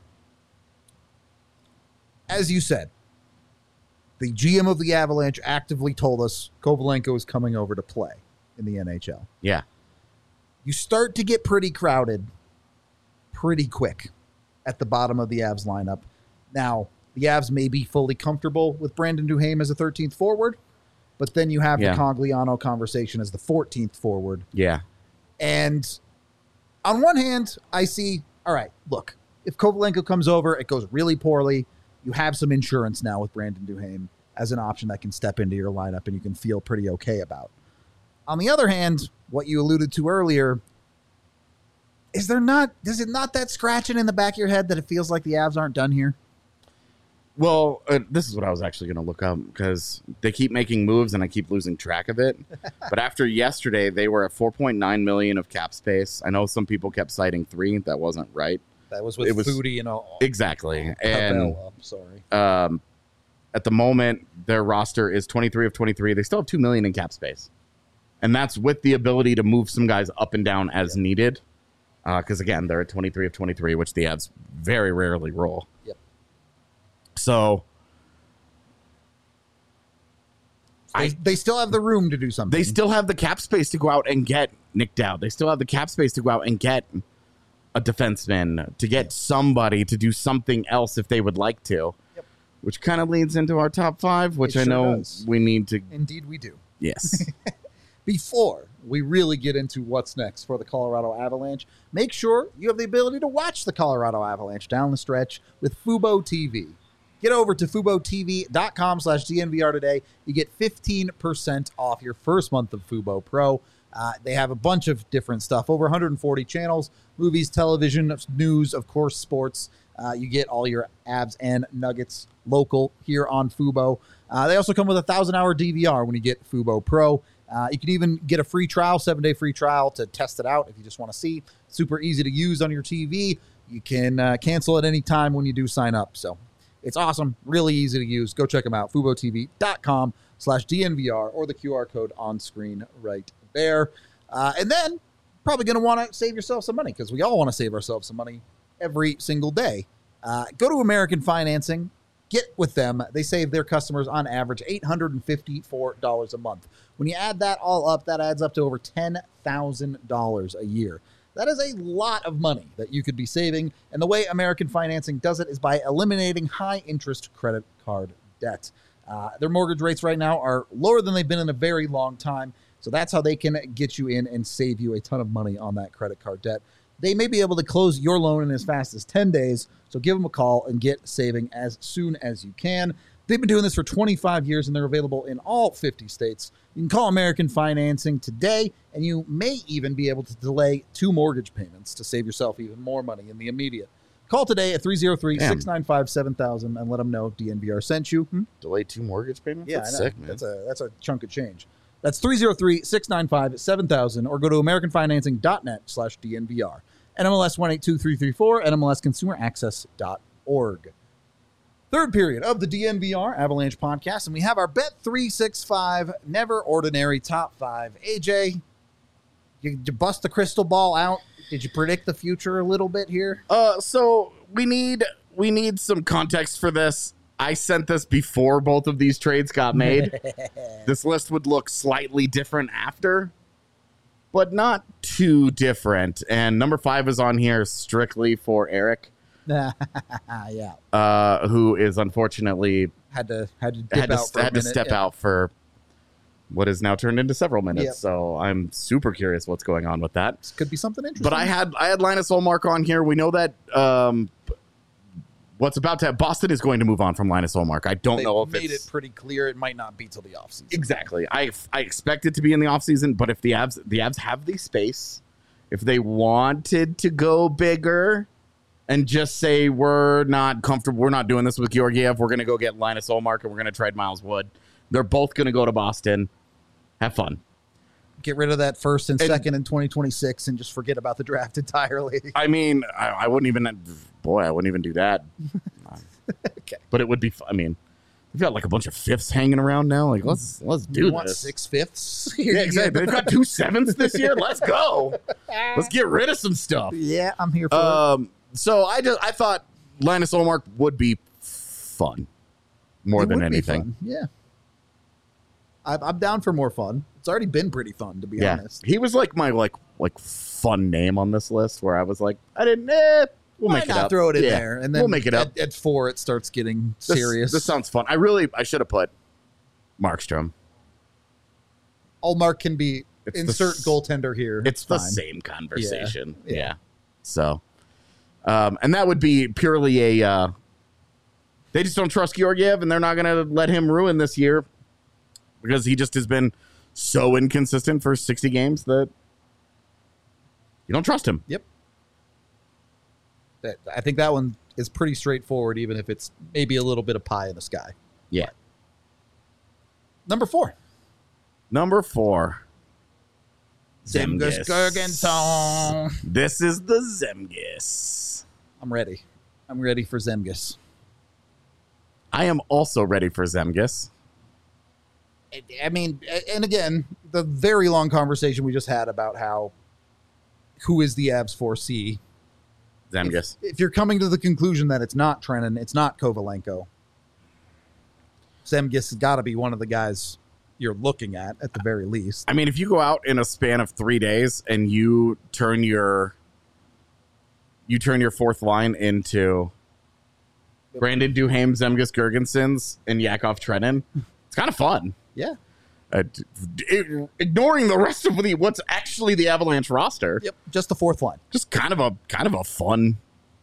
as you said, the GM of the Avalanche actively told us Kovalenko is coming over to play in the NHL. Yeah. You start to get pretty crowded pretty quick at the bottom of the Avs lineup. Now, the Avs may be fully comfortable with Brandon Duhaime as a 13th forward, but then you have the Cogliano conversation as the 14th forward. Yeah. And on one hand, I see, all right, look, if Kovalenko comes over, it goes really poorly. You have some insurance now with Brandon Duhaime as an option that can step into your lineup and you can feel pretty okay about. On the other hand, what you alluded to earlier, does it not that scratching in the back of your head that it feels like the Avs aren't done here? Well, this is what I was actually going to look up because they keep making moves and I keep losing track of it. But after yesterday, they were at $4.9 million of cap space. I know some people kept citing 3. That wasn't right. That was with Foodie and all. Exactly. And sorry. At the moment, their roster is 23 of 23. They still have $2 million in cap space. And that's with the ability to move some guys up and down as needed. Because, again, they're at 23 of 23, which the Avs very rarely roll. Yep. So they still have the room to do something. They still have the cap space to go out and get Nick Dowd. They still have the cap space to go out and get a defenseman, to get somebody to do something else if they would like to, which kind of leads into our top 5, which I know we need to. Indeed, we do. Yes. Before we really get into what's next for the Colorado Avalanche, make sure you have the ability to watch the Colorado Avalanche down the stretch with Fubo TV. Get over to FuboTV.com/DNVR today. You get 15% off your first month of Fubo Pro. They have a bunch of different stuff, over 140 channels, movies, television, news, of course, sports. You get all your Avs and Nuggets local here on Fubo. They also come with a 1,000-hour DVR when you get Fubo Pro. You can even get a free trial, 7-day free trial to test it out if you just want to see. Super easy to use on your TV. You can cancel at any time when you do sign up. So it's awesome. Really easy to use. Go check them out. FuboTV.com/DNVR or the QR code on screen right there. And then probably going to want to save yourself some money because we all want to save ourselves some money every single day. Go to American Financing. Get with them. They save their customers on average $854 a month. When you add that all up, that adds up to over $10,000 a year. That is a lot of money that you could be saving. And the way American Financing does it is by eliminating high-interest credit card debt. Their mortgage rates right now are lower than they've been in a very long time. So that's how they can get you in and save you a ton of money on that credit card debt. They may be able to close your loan in as fast as 10 days. So give them a call and get saving as soon as you can. They've been doing this for 25 years, and they're available in all 50 states. You can call American Financing today, and you may even be able to delay 2 mortgage payments to save yourself even more money in the immediate. Call today at 303-695-7000 and let them know DNVR sent you. Delay 2 mortgage payments? Yeah, That's I know. sick, man. That's a chunk of change. That's 303-695-7000 or go to americanfinancing.net/DNVR. NMLS 182334, NMLSconsumeraccess.org. Third period of the DNVR Avalanche podcast, and we have our Bet365 Never Ordinary Top 5. AJ, you bust the crystal ball out? Did you predict the future a little bit here? So we need some context for this. I sent this before both of these trades got made. This list would look slightly different after, but not too different. And number 5 is on here strictly for Eric. Yeah. Who is unfortunately Had to step out for what is now turned into several minutes. Yep. So I'm super curious what's going on with that. This could be something interesting. But I had Linus Ullmark on here. We know that what's about to happen. Boston is going to move on from Linus Ullmark. I don't know if made it's it pretty clear it might not be till the offseason. exactly. I expect it to be in the offseason, but if the Avs have the space, if they wanted to go bigger and just say we're not comfortable, we're not doing this with Georgiev, we're going to go get Linus Ullmark and we're going to trade Miles Wood. They're both going to go to Boston. Have fun. Get rid of that first and second in 2026 and just forget about the draft entirely. I mean, I wouldn't even do that. Okay. But it would be, I mean, we've got like a bunch of fifths hanging around now. Like, let's do You want this. 6 fifths? Yeah, exactly. They've got 2 7s this year. Let's go. Let's get rid of some stuff. Yeah, I'm here for it. So I thought Linus Ullmark would be fun more It than would be anything. fun, yeah. I'm down for more fun. It's already been pretty fun, to be Yeah, honest. he was like my like fun name on this list where I was like, we'll Why make it not up. throw it in Yeah, there? And then we'll make it up. At 4, it starts getting serious. This sounds fun. I should have put Markstrom. Ullmark can be It's insert the- goaltender here. It's the fine. same conversation. Yeah. Yeah. So, and that would be purely a. They just don't trust Georgiev, and they're not going to let him ruin this year because he just has been so inconsistent for 60 games that you don't trust him. Yep. I think that one is pretty straightforward, even if it's maybe a little bit of pie in the sky. Yeah. Number 4. Number 4. Zemgus Girgensson. This is the Zemgus. I'm ready. I'm ready for Zemgus. I am also ready for Zemgus. I mean, and again, the very long conversation we just had about who is the Avs 4C. Zemgus. If you're coming to the conclusion that it's not Trenin, it's not Kovalenko, Zemgus has got to be one of the guys you're looking at the very least. I mean, if you go out in a span of 3 days and you turn your fourth line into Brandon Duhaime, Zemgus Girgensons, and Yakov Trenin, it's kind of fun. Yeah. Ignoring the rest of what's actually the Avalanche roster. Yep. Just the fourth line. Just kind of a fun.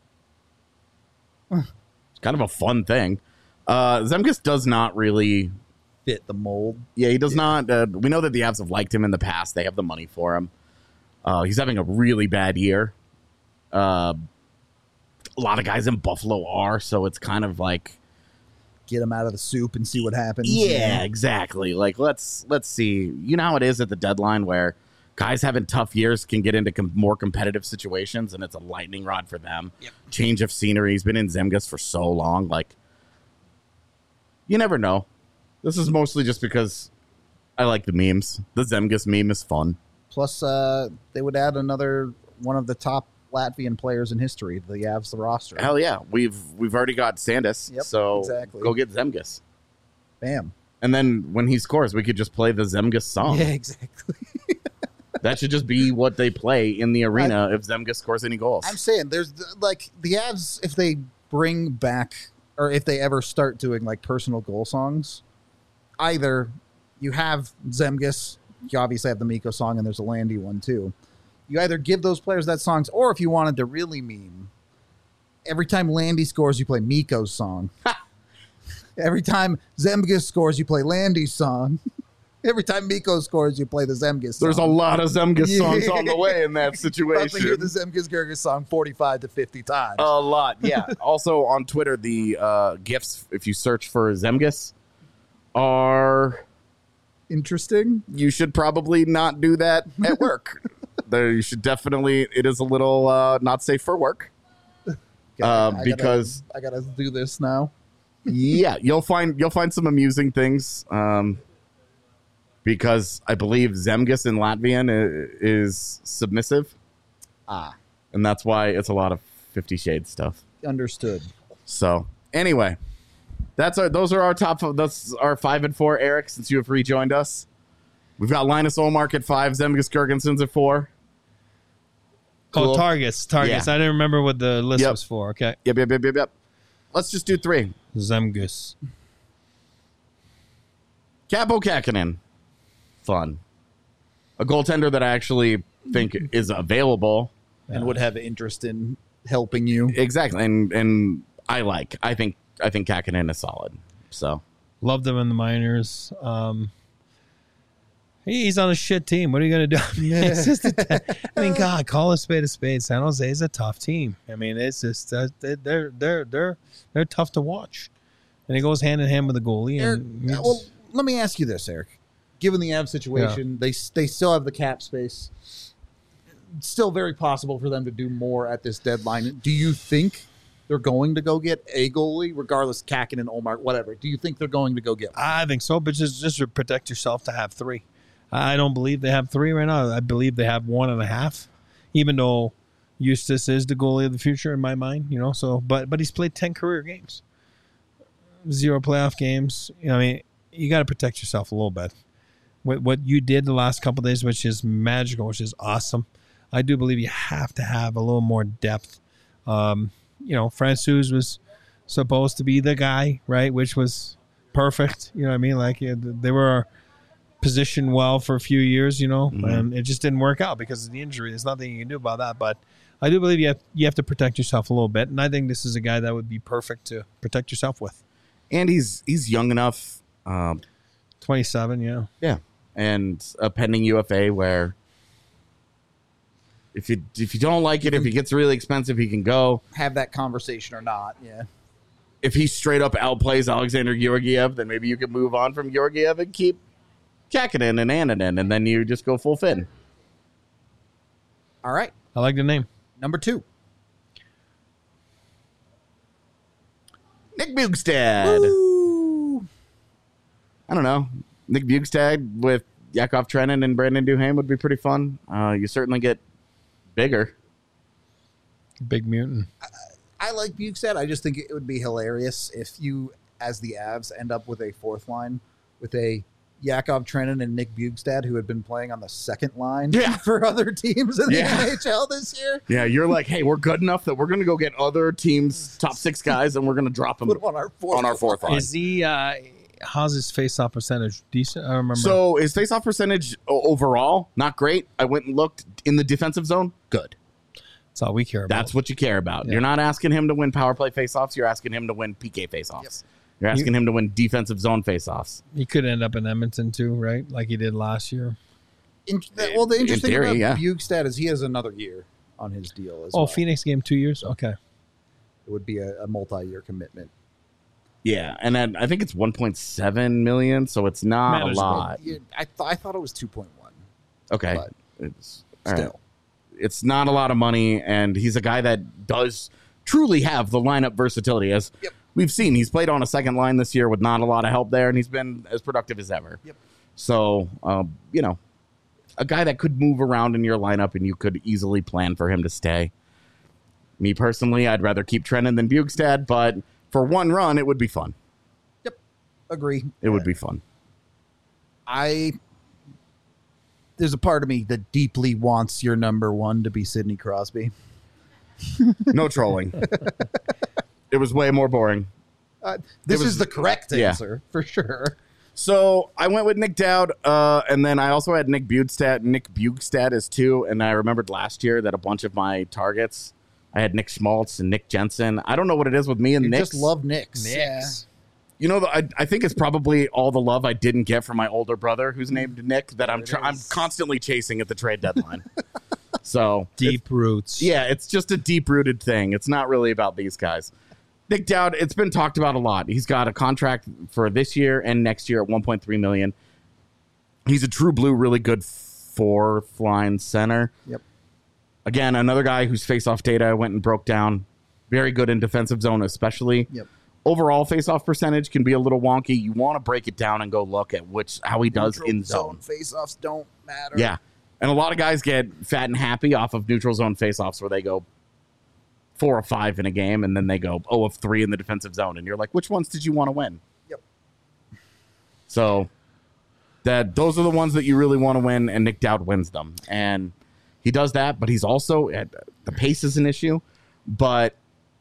It's kind of a fun thing. Zemgus does not really fit the mold. Yeah, he does not. We know that the Avs have liked him in the past. They have the money for him. He's having a really bad year. A lot of guys in Buffalo are, so it's kind of like get him out of the soup and see what happens. Yeah, exactly. Like let's see. You know how it is at the deadline where guys having tough years can get into more competitive situations, and it's a lightning rod for them. Yep. Change of scenery. He's been in Zemgus for so long. Like you never know. This is mostly just because I like the memes. The Zemgus meme is fun. Plus, they would add another one of the top Latvian players in history. The Avs, the roster. Hell yeah, we've already got Sandus. Yep, so exactly. Go get Zemgus. Bam. And then when he scores, we could just play the Zemgus song. Yeah, exactly. That should just be what they play in the arena if Zemgus scores any goals. I'm saying there's like the Avs, if they bring back or if they ever start doing like personal goal songs, either you have Zemgus you obviously have the Miko song, and there's a Landy one too. You either give those players that songs, or if you wanted to really meme, every time Landy scores, you play Miko's song. Every time Zemgus scores, you play Landy's song. Every time Miko scores, you play the Zemgus song. There's a lot of Zemgus songs on the way in that About to situation. hear the Zemgus Gerges song 45 to 50 times. A lot, yeah. Also on Twitter, the GIFs, if you search for Zemgus, are... Interesting. You should probably not do that at work. You should definitely... It is a little not safe for work. Because... I gotta do this now. Yeah, you'll find some amusing things. Because I believe Zemgus in Latvian is submissive. And that's why it's a lot of 50 Shades stuff. Understood. So, anyway, those are our top. That's our 5 and 4, Eric, since you have rejoined us. We've got Linus Olmark at 5, Zemgus Girgensons at 4. Cool. Oh, targets. Yeah. I didn't remember what the list was for. Okay. Yep. Let's just do 3. Zemgus. Capo Kakinen. Fun. A goaltender that I actually think is available. And would have interest in helping you. Exactly. And I think Kakinen is solid. So Loved him in the minors. He's on a shit team. What are you going to do? It's just God, call a spade a spade. San Jose is a tough team. I mean, it's just they're tough to watch. And it goes hand in hand with the goalie. And Eric, well, let me ask you this, Eric. Given the Avs situation, they still have the cap space. It's still very possible for them to do more at this deadline. Do you think they're going to go get a goalie, regardless, Kakinen, Olmark, whatever? Do you think they're going to go get one? I think so, but just to protect yourself to have 3. I don't believe they have 3 right now. I believe they have 1.5, even though Eustace is the goalie of the future in my mind. So but he's played 10 career games, 0 playoff games. I mean, you got to protect yourself a little bit. What you did the last couple of days, which is magical, which is awesome. I do believe you have to have a little more depth. Francouz was supposed to be the guy, right? Which was perfect. You know what I mean? Like they were positioned well for a few years, and it just didn't work out because of the injury. There's nothing you can do about that. But I do believe you have to protect yourself a little bit, and I think this is a guy that would be perfect to protect yourself with. And he's young enough. 27, yeah. Yeah. And a pending UFA where if you don't like it, if he gets really expensive, he can go. Have that conversation or not, yeah. If he straight up outplays Alexander Georgiev, then maybe you can move on from Georgiev and keep Kakinen and Annunen, and then you just go full fin. All right. I like the name. Number 2. Nick Bjugstad. Woo! I don't know. Nick Bjugstad with Yakov Trenin and Brandon Duhaime would be pretty fun. You certainly get bigger. Big mutant. I like Bjugstad. I just think it would be hilarious if you, as the Avs, end up with a 4th line with a Yakov Trenin and Nick Bjugstad, who had been playing on the 2nd line for other teams in the NHL this year. Yeah, you're like, hey, we're good enough that we're going to go get other teams' top 6 guys, and we're going to drop them Put them on our 4th line. Is he... how's his face-off percentage? Decent? I don't remember. So his face-off percentage overall, not great. I went and looked in the defensive zone. Good. That's all we care about. That's what you care about. Yeah. You're not asking him to win power play face-offs. You're asking him to win PK face-offs. Yep. You're asking him to win defensive zone face-offs. He could end up in Edmonton too, right? Like he did last year. The interesting theory, thing about Bjugstad is he has another year on his deal as well. Oh, Phoenix game 2 years? Okay. It would be a multi-year commitment. Yeah, and then I think it's 1.7 million, so it's not a lot. Yeah, I thought it was 2.1. Okay. But It's still. right. It's not a lot of money, and he's a guy that does truly have the lineup versatility. As we've seen, he's played on a 2nd line this year with not a lot of help there, and he's been as productive as ever. Yep. So, a guy that could move around in your lineup, and you could easily plan for him to stay. Me personally, I'd rather keep Trenin than Bjugstad, but for one run, it would be fun. Yep. Agree. It would be fun. There's a part of me that deeply wants your number 1 to be Sidney Crosby. No trolling. It was way more boring. This was- is the correct yeah. answer, for sure. So I went with Nick Dowd, and then I also had Nick Bjugstad as 2, and I remembered last year that a bunch of my targets, I had Nick Schmaltz and Nick Jensen. I don't know what it is with me and You Nick. just love Knicks. Knicks. You know, I think it's probably all the love I didn't get from my older brother, who's named Nick, that I'm constantly chasing at the trade deadline. So Deep roots. yeah, it's just a deep-rooted thing. It's not really about these guys. Nick Dowd, it's been talked about a lot. He's got a contract for this year and next year at $1.3 million. He's a true blue, really good fourth-line center. Yep. Again, another guy whose face-off data I went and broke down. Very good in defensive zone, especially. Yep. Overall face-off percentage can be a little wonky. You want to break it down and go look at how he does Neutral in zone. Face-offs don't matter. Yeah. And a lot of guys get fat and happy off of neutral zone face-offs where they go 4 or 5 in a game, and then they go 0 of 3 in the defensive zone. And you're like, which ones did you want to win? Yep. So those are the ones that you really want to win, and Nick Dowd wins them. And he does that, but he's also, the pace is an issue, but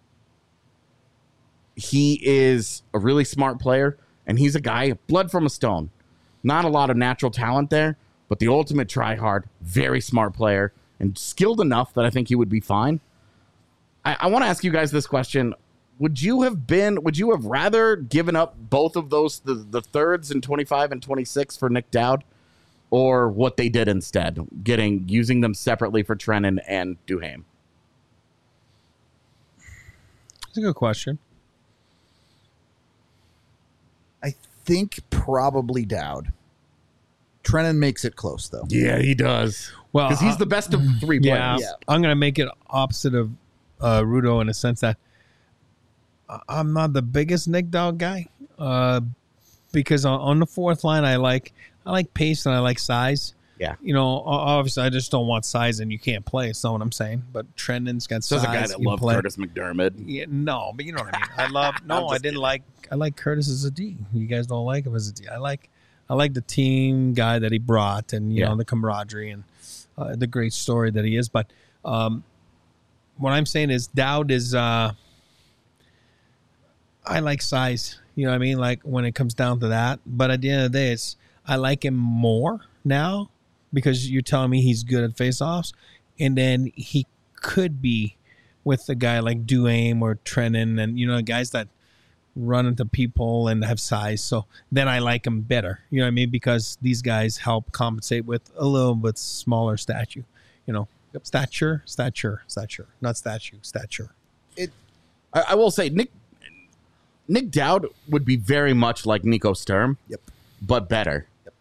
he is a really smart player, and he's a guy, blood from a stone. Not a lot of natural talent there, but the ultimate try-hard, very smart player, and skilled enough that I think he would be fine. I want to ask you guys this question. Would you have rather given up both of those, the thirds in 25 and 26 for Nick Dowd, or what they did instead, using them separately for Trenin and Duhaime? That's a good question. I think probably Dowd. Trennan makes it close, though. Yeah, he does. Well, Because he's the best of 3 players. Yeah, Yeah. I'm going to make it opposite of Rudo in a sense that I'm not the biggest Nick Dowd guy because on the fourth line I like pace and I like size. Yeah. You know, obviously I just don't want size and you can't play. That's not what I'm saying. But Trendon's got So size. there's a guy that he can loved play. Curtis McDermott. Yeah, no, but you know what I mean. I like Curtis as a D. You guys don't like him as a D. I like the team guy that he brought and you know the camaraderie and the great story that he is. But what I'm saying is Dowd is I like size. You know what I mean? Like when it comes down to that. But at the end of the day, I like him more now because you're telling me he's good at faceoffs, and then he could be with a guy like Duhaime or Trenin and, you know, guys that run into people and have size. So then I like him better. You know what I mean? Because these guys help compensate with a little bit smaller stature. You know, stature, not statue, stature. I will say Nick Dowd would be very much like Nico Sturm. Yep. But better. Yep.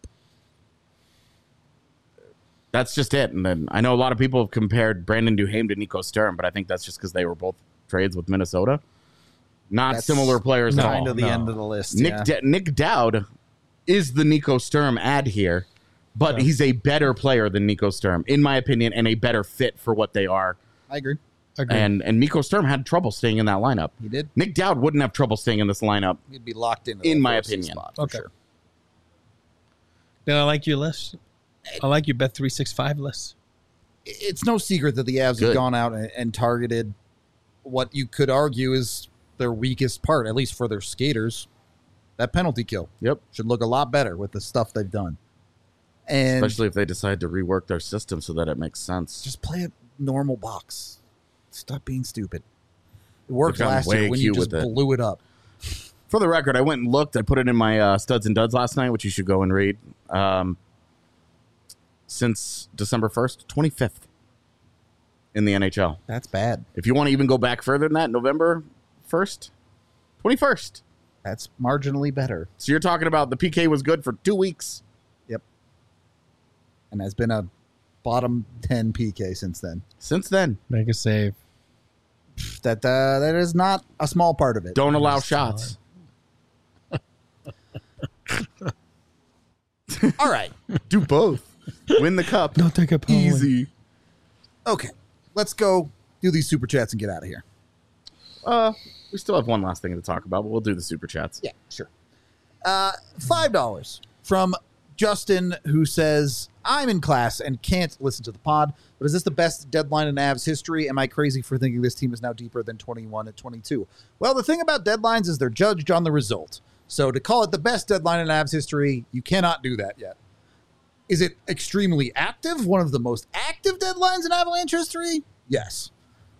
That's just it. And then I know a lot of people have compared Brandon Duhaime to Nico Sturm, but I think that's just because they were both trades with Minnesota. Not That's similar players at Kind all. of the end of the list. Nick Dowd is the Nico Sturm ad here, but he's a better player than Nico Sturm, in my opinion, and a better fit for what they are. I agree. And Nico Sturm had trouble staying in that lineup. He did. Nick Dowd wouldn't have trouble staying in this lineup. He'd be locked into In that my first opinion. spot, for Okay. sure. Then I like your list. I like your Bet365 list. It's no secret that the Avs Good. have gone out and targeted what you could argue is their weakest part, at least for their skaters. That penalty kill Yep. should look a lot better with the stuff they've done. And Especially if they decide to rework their system so that it makes sense. just play a normal box. Stop being stupid. It worked They've gotten last year way when you cute just with it. blew it up. For the record, I went and looked. I put it in my Studs and Duds last night, which you should go and read. Since December 1st, 25th in the NHL. That's bad. If you want to even go back further than that, November 1st, 21st. That's marginally better. So you're talking about the PK was good for 2 weeks. Yep. And has been a bottom 10 PK since then. Since then, Make a save. That is not a small part of it. don't allow shots. All right. Do both. Win the cup. Don't take a power win. Easy. Okay. Let's go do these super chats and get out of here. We still have one last thing to talk about, but we'll do the super chats. Yeah, sure. $5 from Justin, who says, I'm in class and can't listen to the pod, but is this the best deadline in Avs history? Am I crazy for thinking this team is now deeper than 21 and 22? Well, the thing about deadlines is they're judged on the result. So to call it the best deadline in Avs history, you cannot do that yet. Is it extremely active? One of the most active deadlines in Avalanche history? Yes.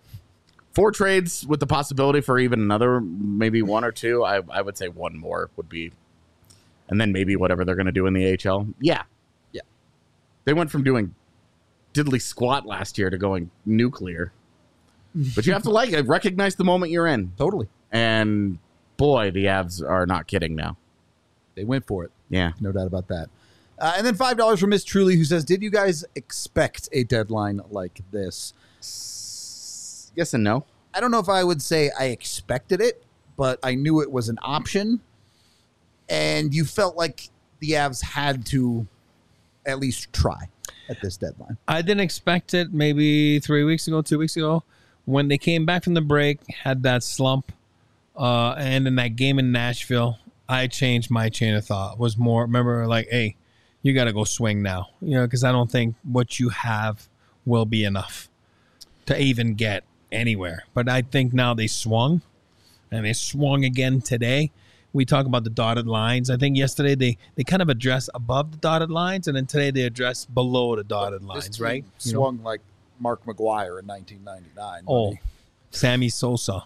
4 trades with the possibility for even another, maybe 1 or 2. I would say 1 more would be, and then maybe whatever they're going to do in the AHL. Yeah. They went from doing diddly squat last year to going nuclear. But you have to recognize the moment you're in. Totally. And boy, the Avs are not kidding now. They went for it. Yeah. No doubt about that. And then $5 from Miss Truly, who says, did you guys expect a deadline like this? Yes and no. I don't know if I would say I expected it, but I knew it was an option. And you felt like the Avs had to at least try at this deadline. I didn't expect it maybe 2 weeks ago, when they came back from the break, had that slump, and in that game in Nashville, I changed my chain of thought. Was more, remember, like, hey, you got to go swing now, because I don't think what you have will be enough to even get anywhere. But I think now they swung, and they swung again today. We talk about the dotted lines. I think yesterday they kind of addressed above the dotted lines, and then today they addressed below the dotted lines, right? Swung like Mark McGuire in 1999. Oh, Sammy Sosa.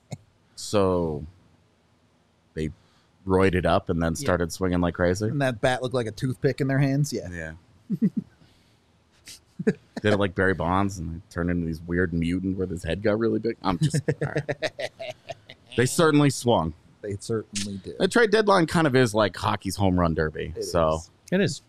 So they roided up and then started swinging like crazy. And that bat looked like a toothpick in their hands. Yeah. Yeah. Did it like Barry Bonds and they turned into these weird mutant where his head got really big. I'm just all right. They certainly swung. They certainly did. The trade deadline kind of is like hockey's home run derby. It is.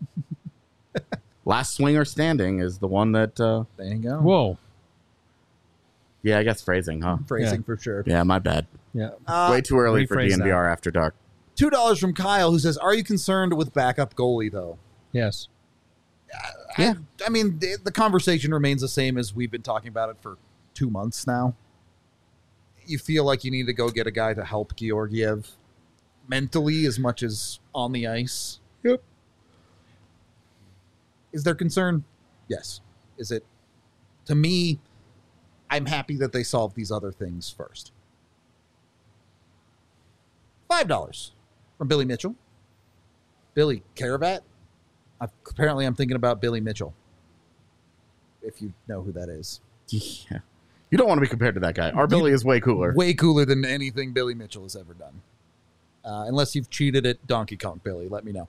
Last swinger standing is the one that. There you go. Whoa. Yeah, I guess phrasing, huh? Phrasing for sure. Yeah, my bad. Yeah. Way too early for rephrase DNVR after dark. $2 from Kyle, who says, are you concerned with backup goalie, though? Yes. Yeah. I mean, the conversation remains the same as we've been talking about it for 2 months now. You feel like you need to go get a guy to help Georgiev mentally as much as on the ice. Yep. Is there concern? Yes. Is it? To me, I'm happy that they solved these other things first. $5 from Billy Mitchell. Billy Caravat. Apparently, I'm thinking about Billy Mitchell. If you know who that is. Yeah. You don't want to be compared to that guy. Our Billy is way cooler. Way cooler than anything Billy Mitchell has ever done. Unless you've cheated at Donkey Kong, Billy. Let me know.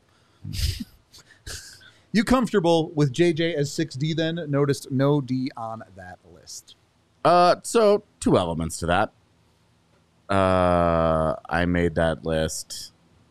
You comfortable with JJ as 6D then? Noticed no D on that list. So 2 elements to that. I made that list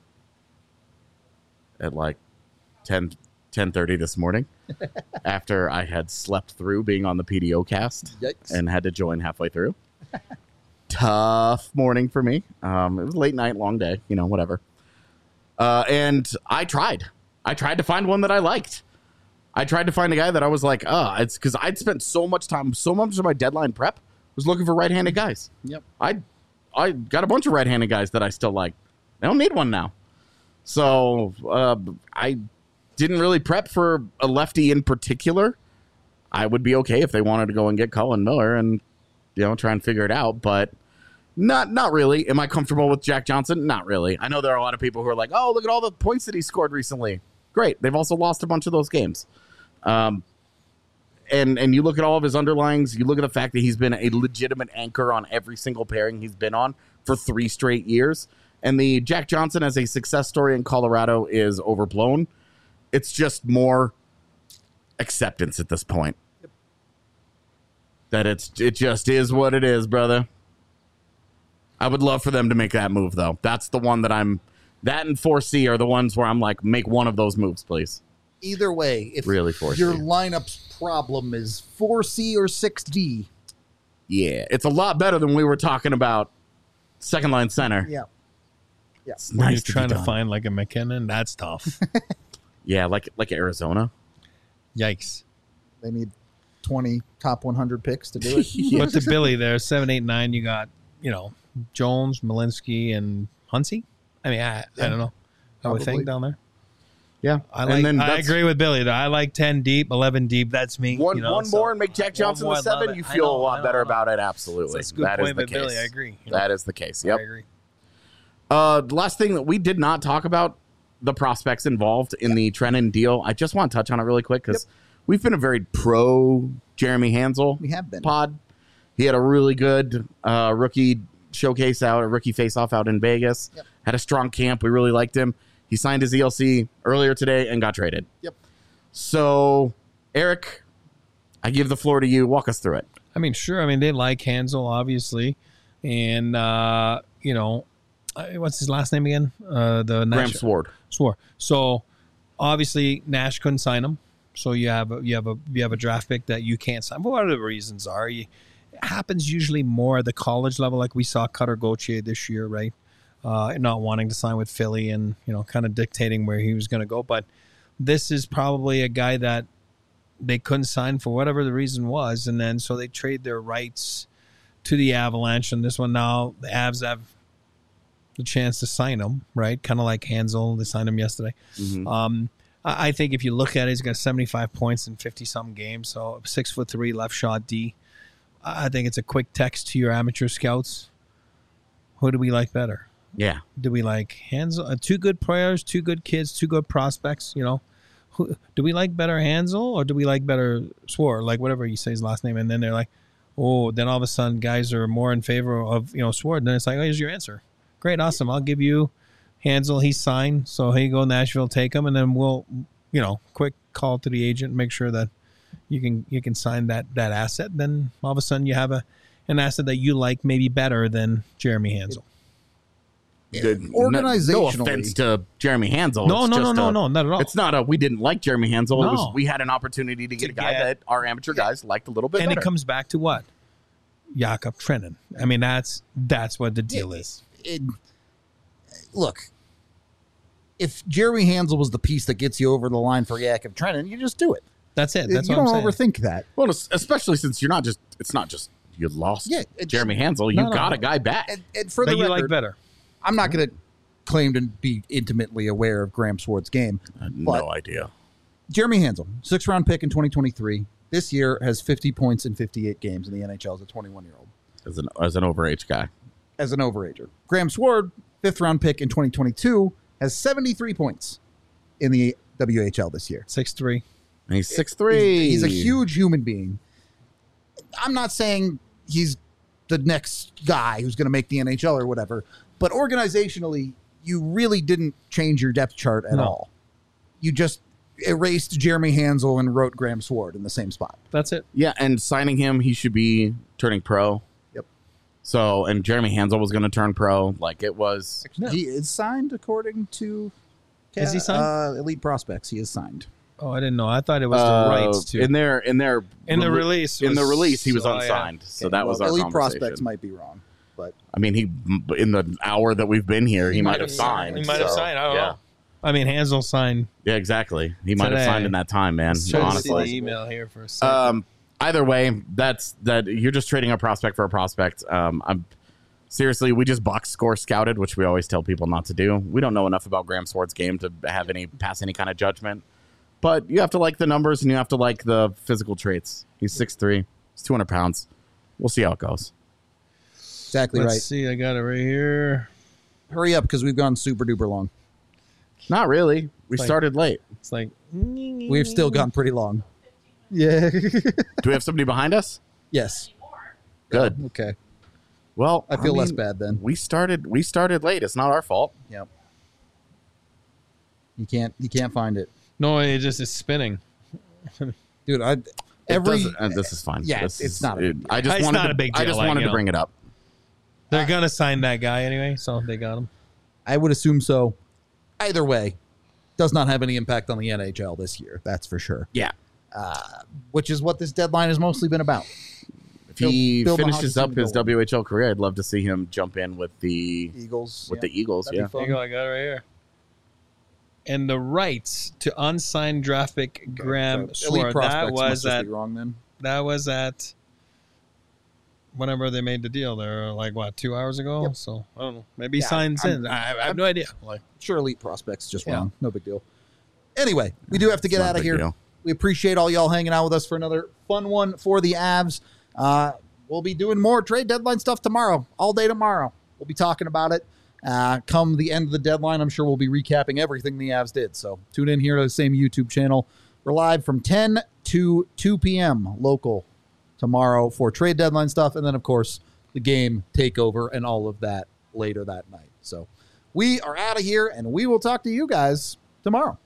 at like 10:30 this morning after I had slept through being on the PDO cast. Yikes. And had to join halfway through. Tough morning for me. It was a late night, long day, whatever. And I tried to find one that I liked. I tried to find a guy that I was like, it's because I'd spent so much of my deadline prep was looking for right-handed guys. Yep. I got a bunch of right-handed guys that I still like. I don't need one now. So I didn't really prep for a lefty in particular. I would be okay if they wanted to go and get Colin Miller and try and figure it out, but not really. Am I comfortable with Jack Johnson? Not really. I know there are a lot of people who are like, oh, look at all the points that he scored recently. Great. They've also lost a bunch of those games. And you look at all of his underlings, you look at the fact that he's been a legitimate anchor on every single pairing he's been on for 3 straight years. And the Jack Johnson as a success story in Colorado is overblown. It's just more acceptance at this point. Yep. That it just is what it is, brother. I would love for them to make that move, though. That's the one that that and 4C are the ones where I'm like, make one of those moves, please. Either way, if really 4C. Your lineup's problem is 4C or 6D. Yeah, it's a lot better than we were talking about second line center. Yeah. Yeah. It's When nice you're to trying be to done. find like a McKinnon, that's tough. Yeah, like Arizona. Yikes. They need 20 top 100 picks to do it. But to Billy there, 7, 8, 9, you got, Jones, Malinsky, and Hunsey. I mean, I don't know. I would Probably. think down there. Yeah, I agree with Billy. Though. I like 10 deep, 11 deep. That's me. One more and make Jack Johnson more, the 7. love You it. feel I a lot know, better I know. about it. Absolutely. That's a good That is point the by Billy. case. I agree. That is the case. Yep. I agree. The last thing that we did not talk about, the prospects involved in the Trennan deal. I just want to touch on it really quick because we've been a very pro Jeremy Hansel We have been. pod. He had a really good rookie showcase out, a rookie face-off out in Vegas. Yep. Had a strong camp. We really liked him. He signed his ELC earlier today and got traded. Yep. So, Eric, I give the floor to you. Walk us through it. I mean, sure. I mean, they like Hansel, obviously. And, what's his last name again? Graham Sword. Swore. So obviously Nash couldn't sign him. So you have a draft pick that you can't sign. Whatever the reasons are, it happens usually more at the college level, like we saw Cutter Gauthier this year, right? Not wanting to sign with Philly and kind of dictating where he was going to go. But this is probably a guy that they couldn't sign for whatever the reason was, and then so they trade their rights to the Avalanche. And this one now, the Avs have the chance to sign him, right? Kind of like Hansel. They signed him yesterday. Mm-hmm. I think if you look at it, he's got 75 points in 50-something games. So 6'3", left shot D. I think it's a quick text to your amateur scouts. Who do we like better? Yeah. Do we like Hansel? Two good players, two good kids, two good prospects. Who do we like better, Hansel, or do we like better Swore? Like whatever you say his last name, and then they're like, oh, then all of a sudden guys are more in favor of Swore. Then it's like, oh, here's your answer. Great, awesome. I'll give you Hansel. He's signed, so here you go, Nashville. Take him, and then we'll, quick call to the agent, make sure that you can sign that asset. Then all of a sudden you have an asset that you like maybe better than Jeremy Hansel. Organizationally, no offense to Jeremy Hansel. No, not at all. It's not we didn't like Jeremy Hansel. No. It was we had an opportunity to get a guy that our amateur guys liked a little bit And better. it comes back to what? Jakob Trennan. I mean, that's what the deal is. Look, if Jeremy Hansel was the piece that gets you over the line for Jakob Trennan, you just do it. That's it. That's you what I'm don't saying. overthink that. Well, especially since it's not just you lost Jeremy Hansel. You got a guy back. And for That the you record, like better. I'm not going to claim to be intimately aware of Graham Sword's game. I had but no idea. Jeremy Hansel, 6th-round pick in 2023. This year has 50 points in 58 games in the NHL as a 21-year-old. As an overage guy. As an overager. Graham Sword, 5th-round pick in 2022, has 73 points in the WHL this year. 6'3". And he's 6'3". He's a huge human being. I'm not saying he's the next guy who's going to make the NHL or whatever, but organizationally, you really didn't change your depth chart at all. You just erased Jeremy Hansel and wrote Graham Sword in the same spot. That's it. Yeah, and signing him, he should be turning pro. Yep. So, and Jeremy Hansel was going to turn pro. Like it was. He is signed according to Is he signed? Elite Prospects. He is signed. Oh, I didn't know. I thought it was the rights to. In the release. In the release, he was yeah. unsigned. So Okay, that was our Elite conversation. Prospects might be wrong, but I mean, he in the hour that we've been here, he might have signed. He might have signed. I don't know. I mean, Hansel signed. Yeah, exactly. He might have Today. signed in that time, man. Trying to see the Honestly. email here for a second. Either way, that's that. You're just trading a prospect for a prospect. I'm seriously, we just box score scouted, which we always tell people not to do. We don't know enough about Graham Sword's game to pass any kind of judgment. But you have to like the numbers and you have to like the physical traits. He's 6'3". He's 200 pounds. We'll see how it goes. exactly Let's right. see. I got it right here. Hurry up because we've gone super duper long. Not really. We Like- started late. It's like. We've still gone pretty long. Yeah. Do we have somebody behind us? Yes. Good. Okay. Well, I feel less mean, bad then. We started late. It's not our fault. Yep. You can't find it, No, it just is spinning. dude. This is fine. Yeah, This it's is- not a big deal. I just It's wanted not to, a big I deal, just like, wanted you to know. bring it up. They're gonna sign that guy anyway, so they got him. I would assume so. Either way, does not have any impact on the NHL this year. That's for sure. Yeah. Which is what this deadline has mostly been about. If he Build the finishes hockey up his team WHL career, I'd love to see him jump in with the Eagles. the Eagles. That'd be Yeah. fun. There you go. I got it right here. And the rights to unsigned draft pick Graham Elite Sword. Prospects That must was just at be wrong then. whenever they made the deal there, like what, 2 hours ago? Yep. So I don't know. Maybe he Yeah, signs in. I have no idea. Like, Sure, Elite Prospects just Yeah. wrong. No big deal. Anyway, we do have to get It's not out a of big here. deal. We appreciate all y'all hanging out with us for another fun one for the Avs. We'll be doing more trade deadline stuff tomorrow, all day tomorrow. We'll be talking about it. Come the end of the deadline, I'm sure we'll be recapping everything the Avs did. So tune in here to the same YouTube channel. We're live from 10 to 2 p.m. local tomorrow for trade deadline stuff. And then, of course, the game takeover and all of that later that night. So we are out of here, and we will talk to you guys tomorrow.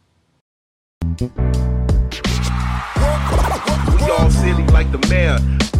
We all silly like the mayor.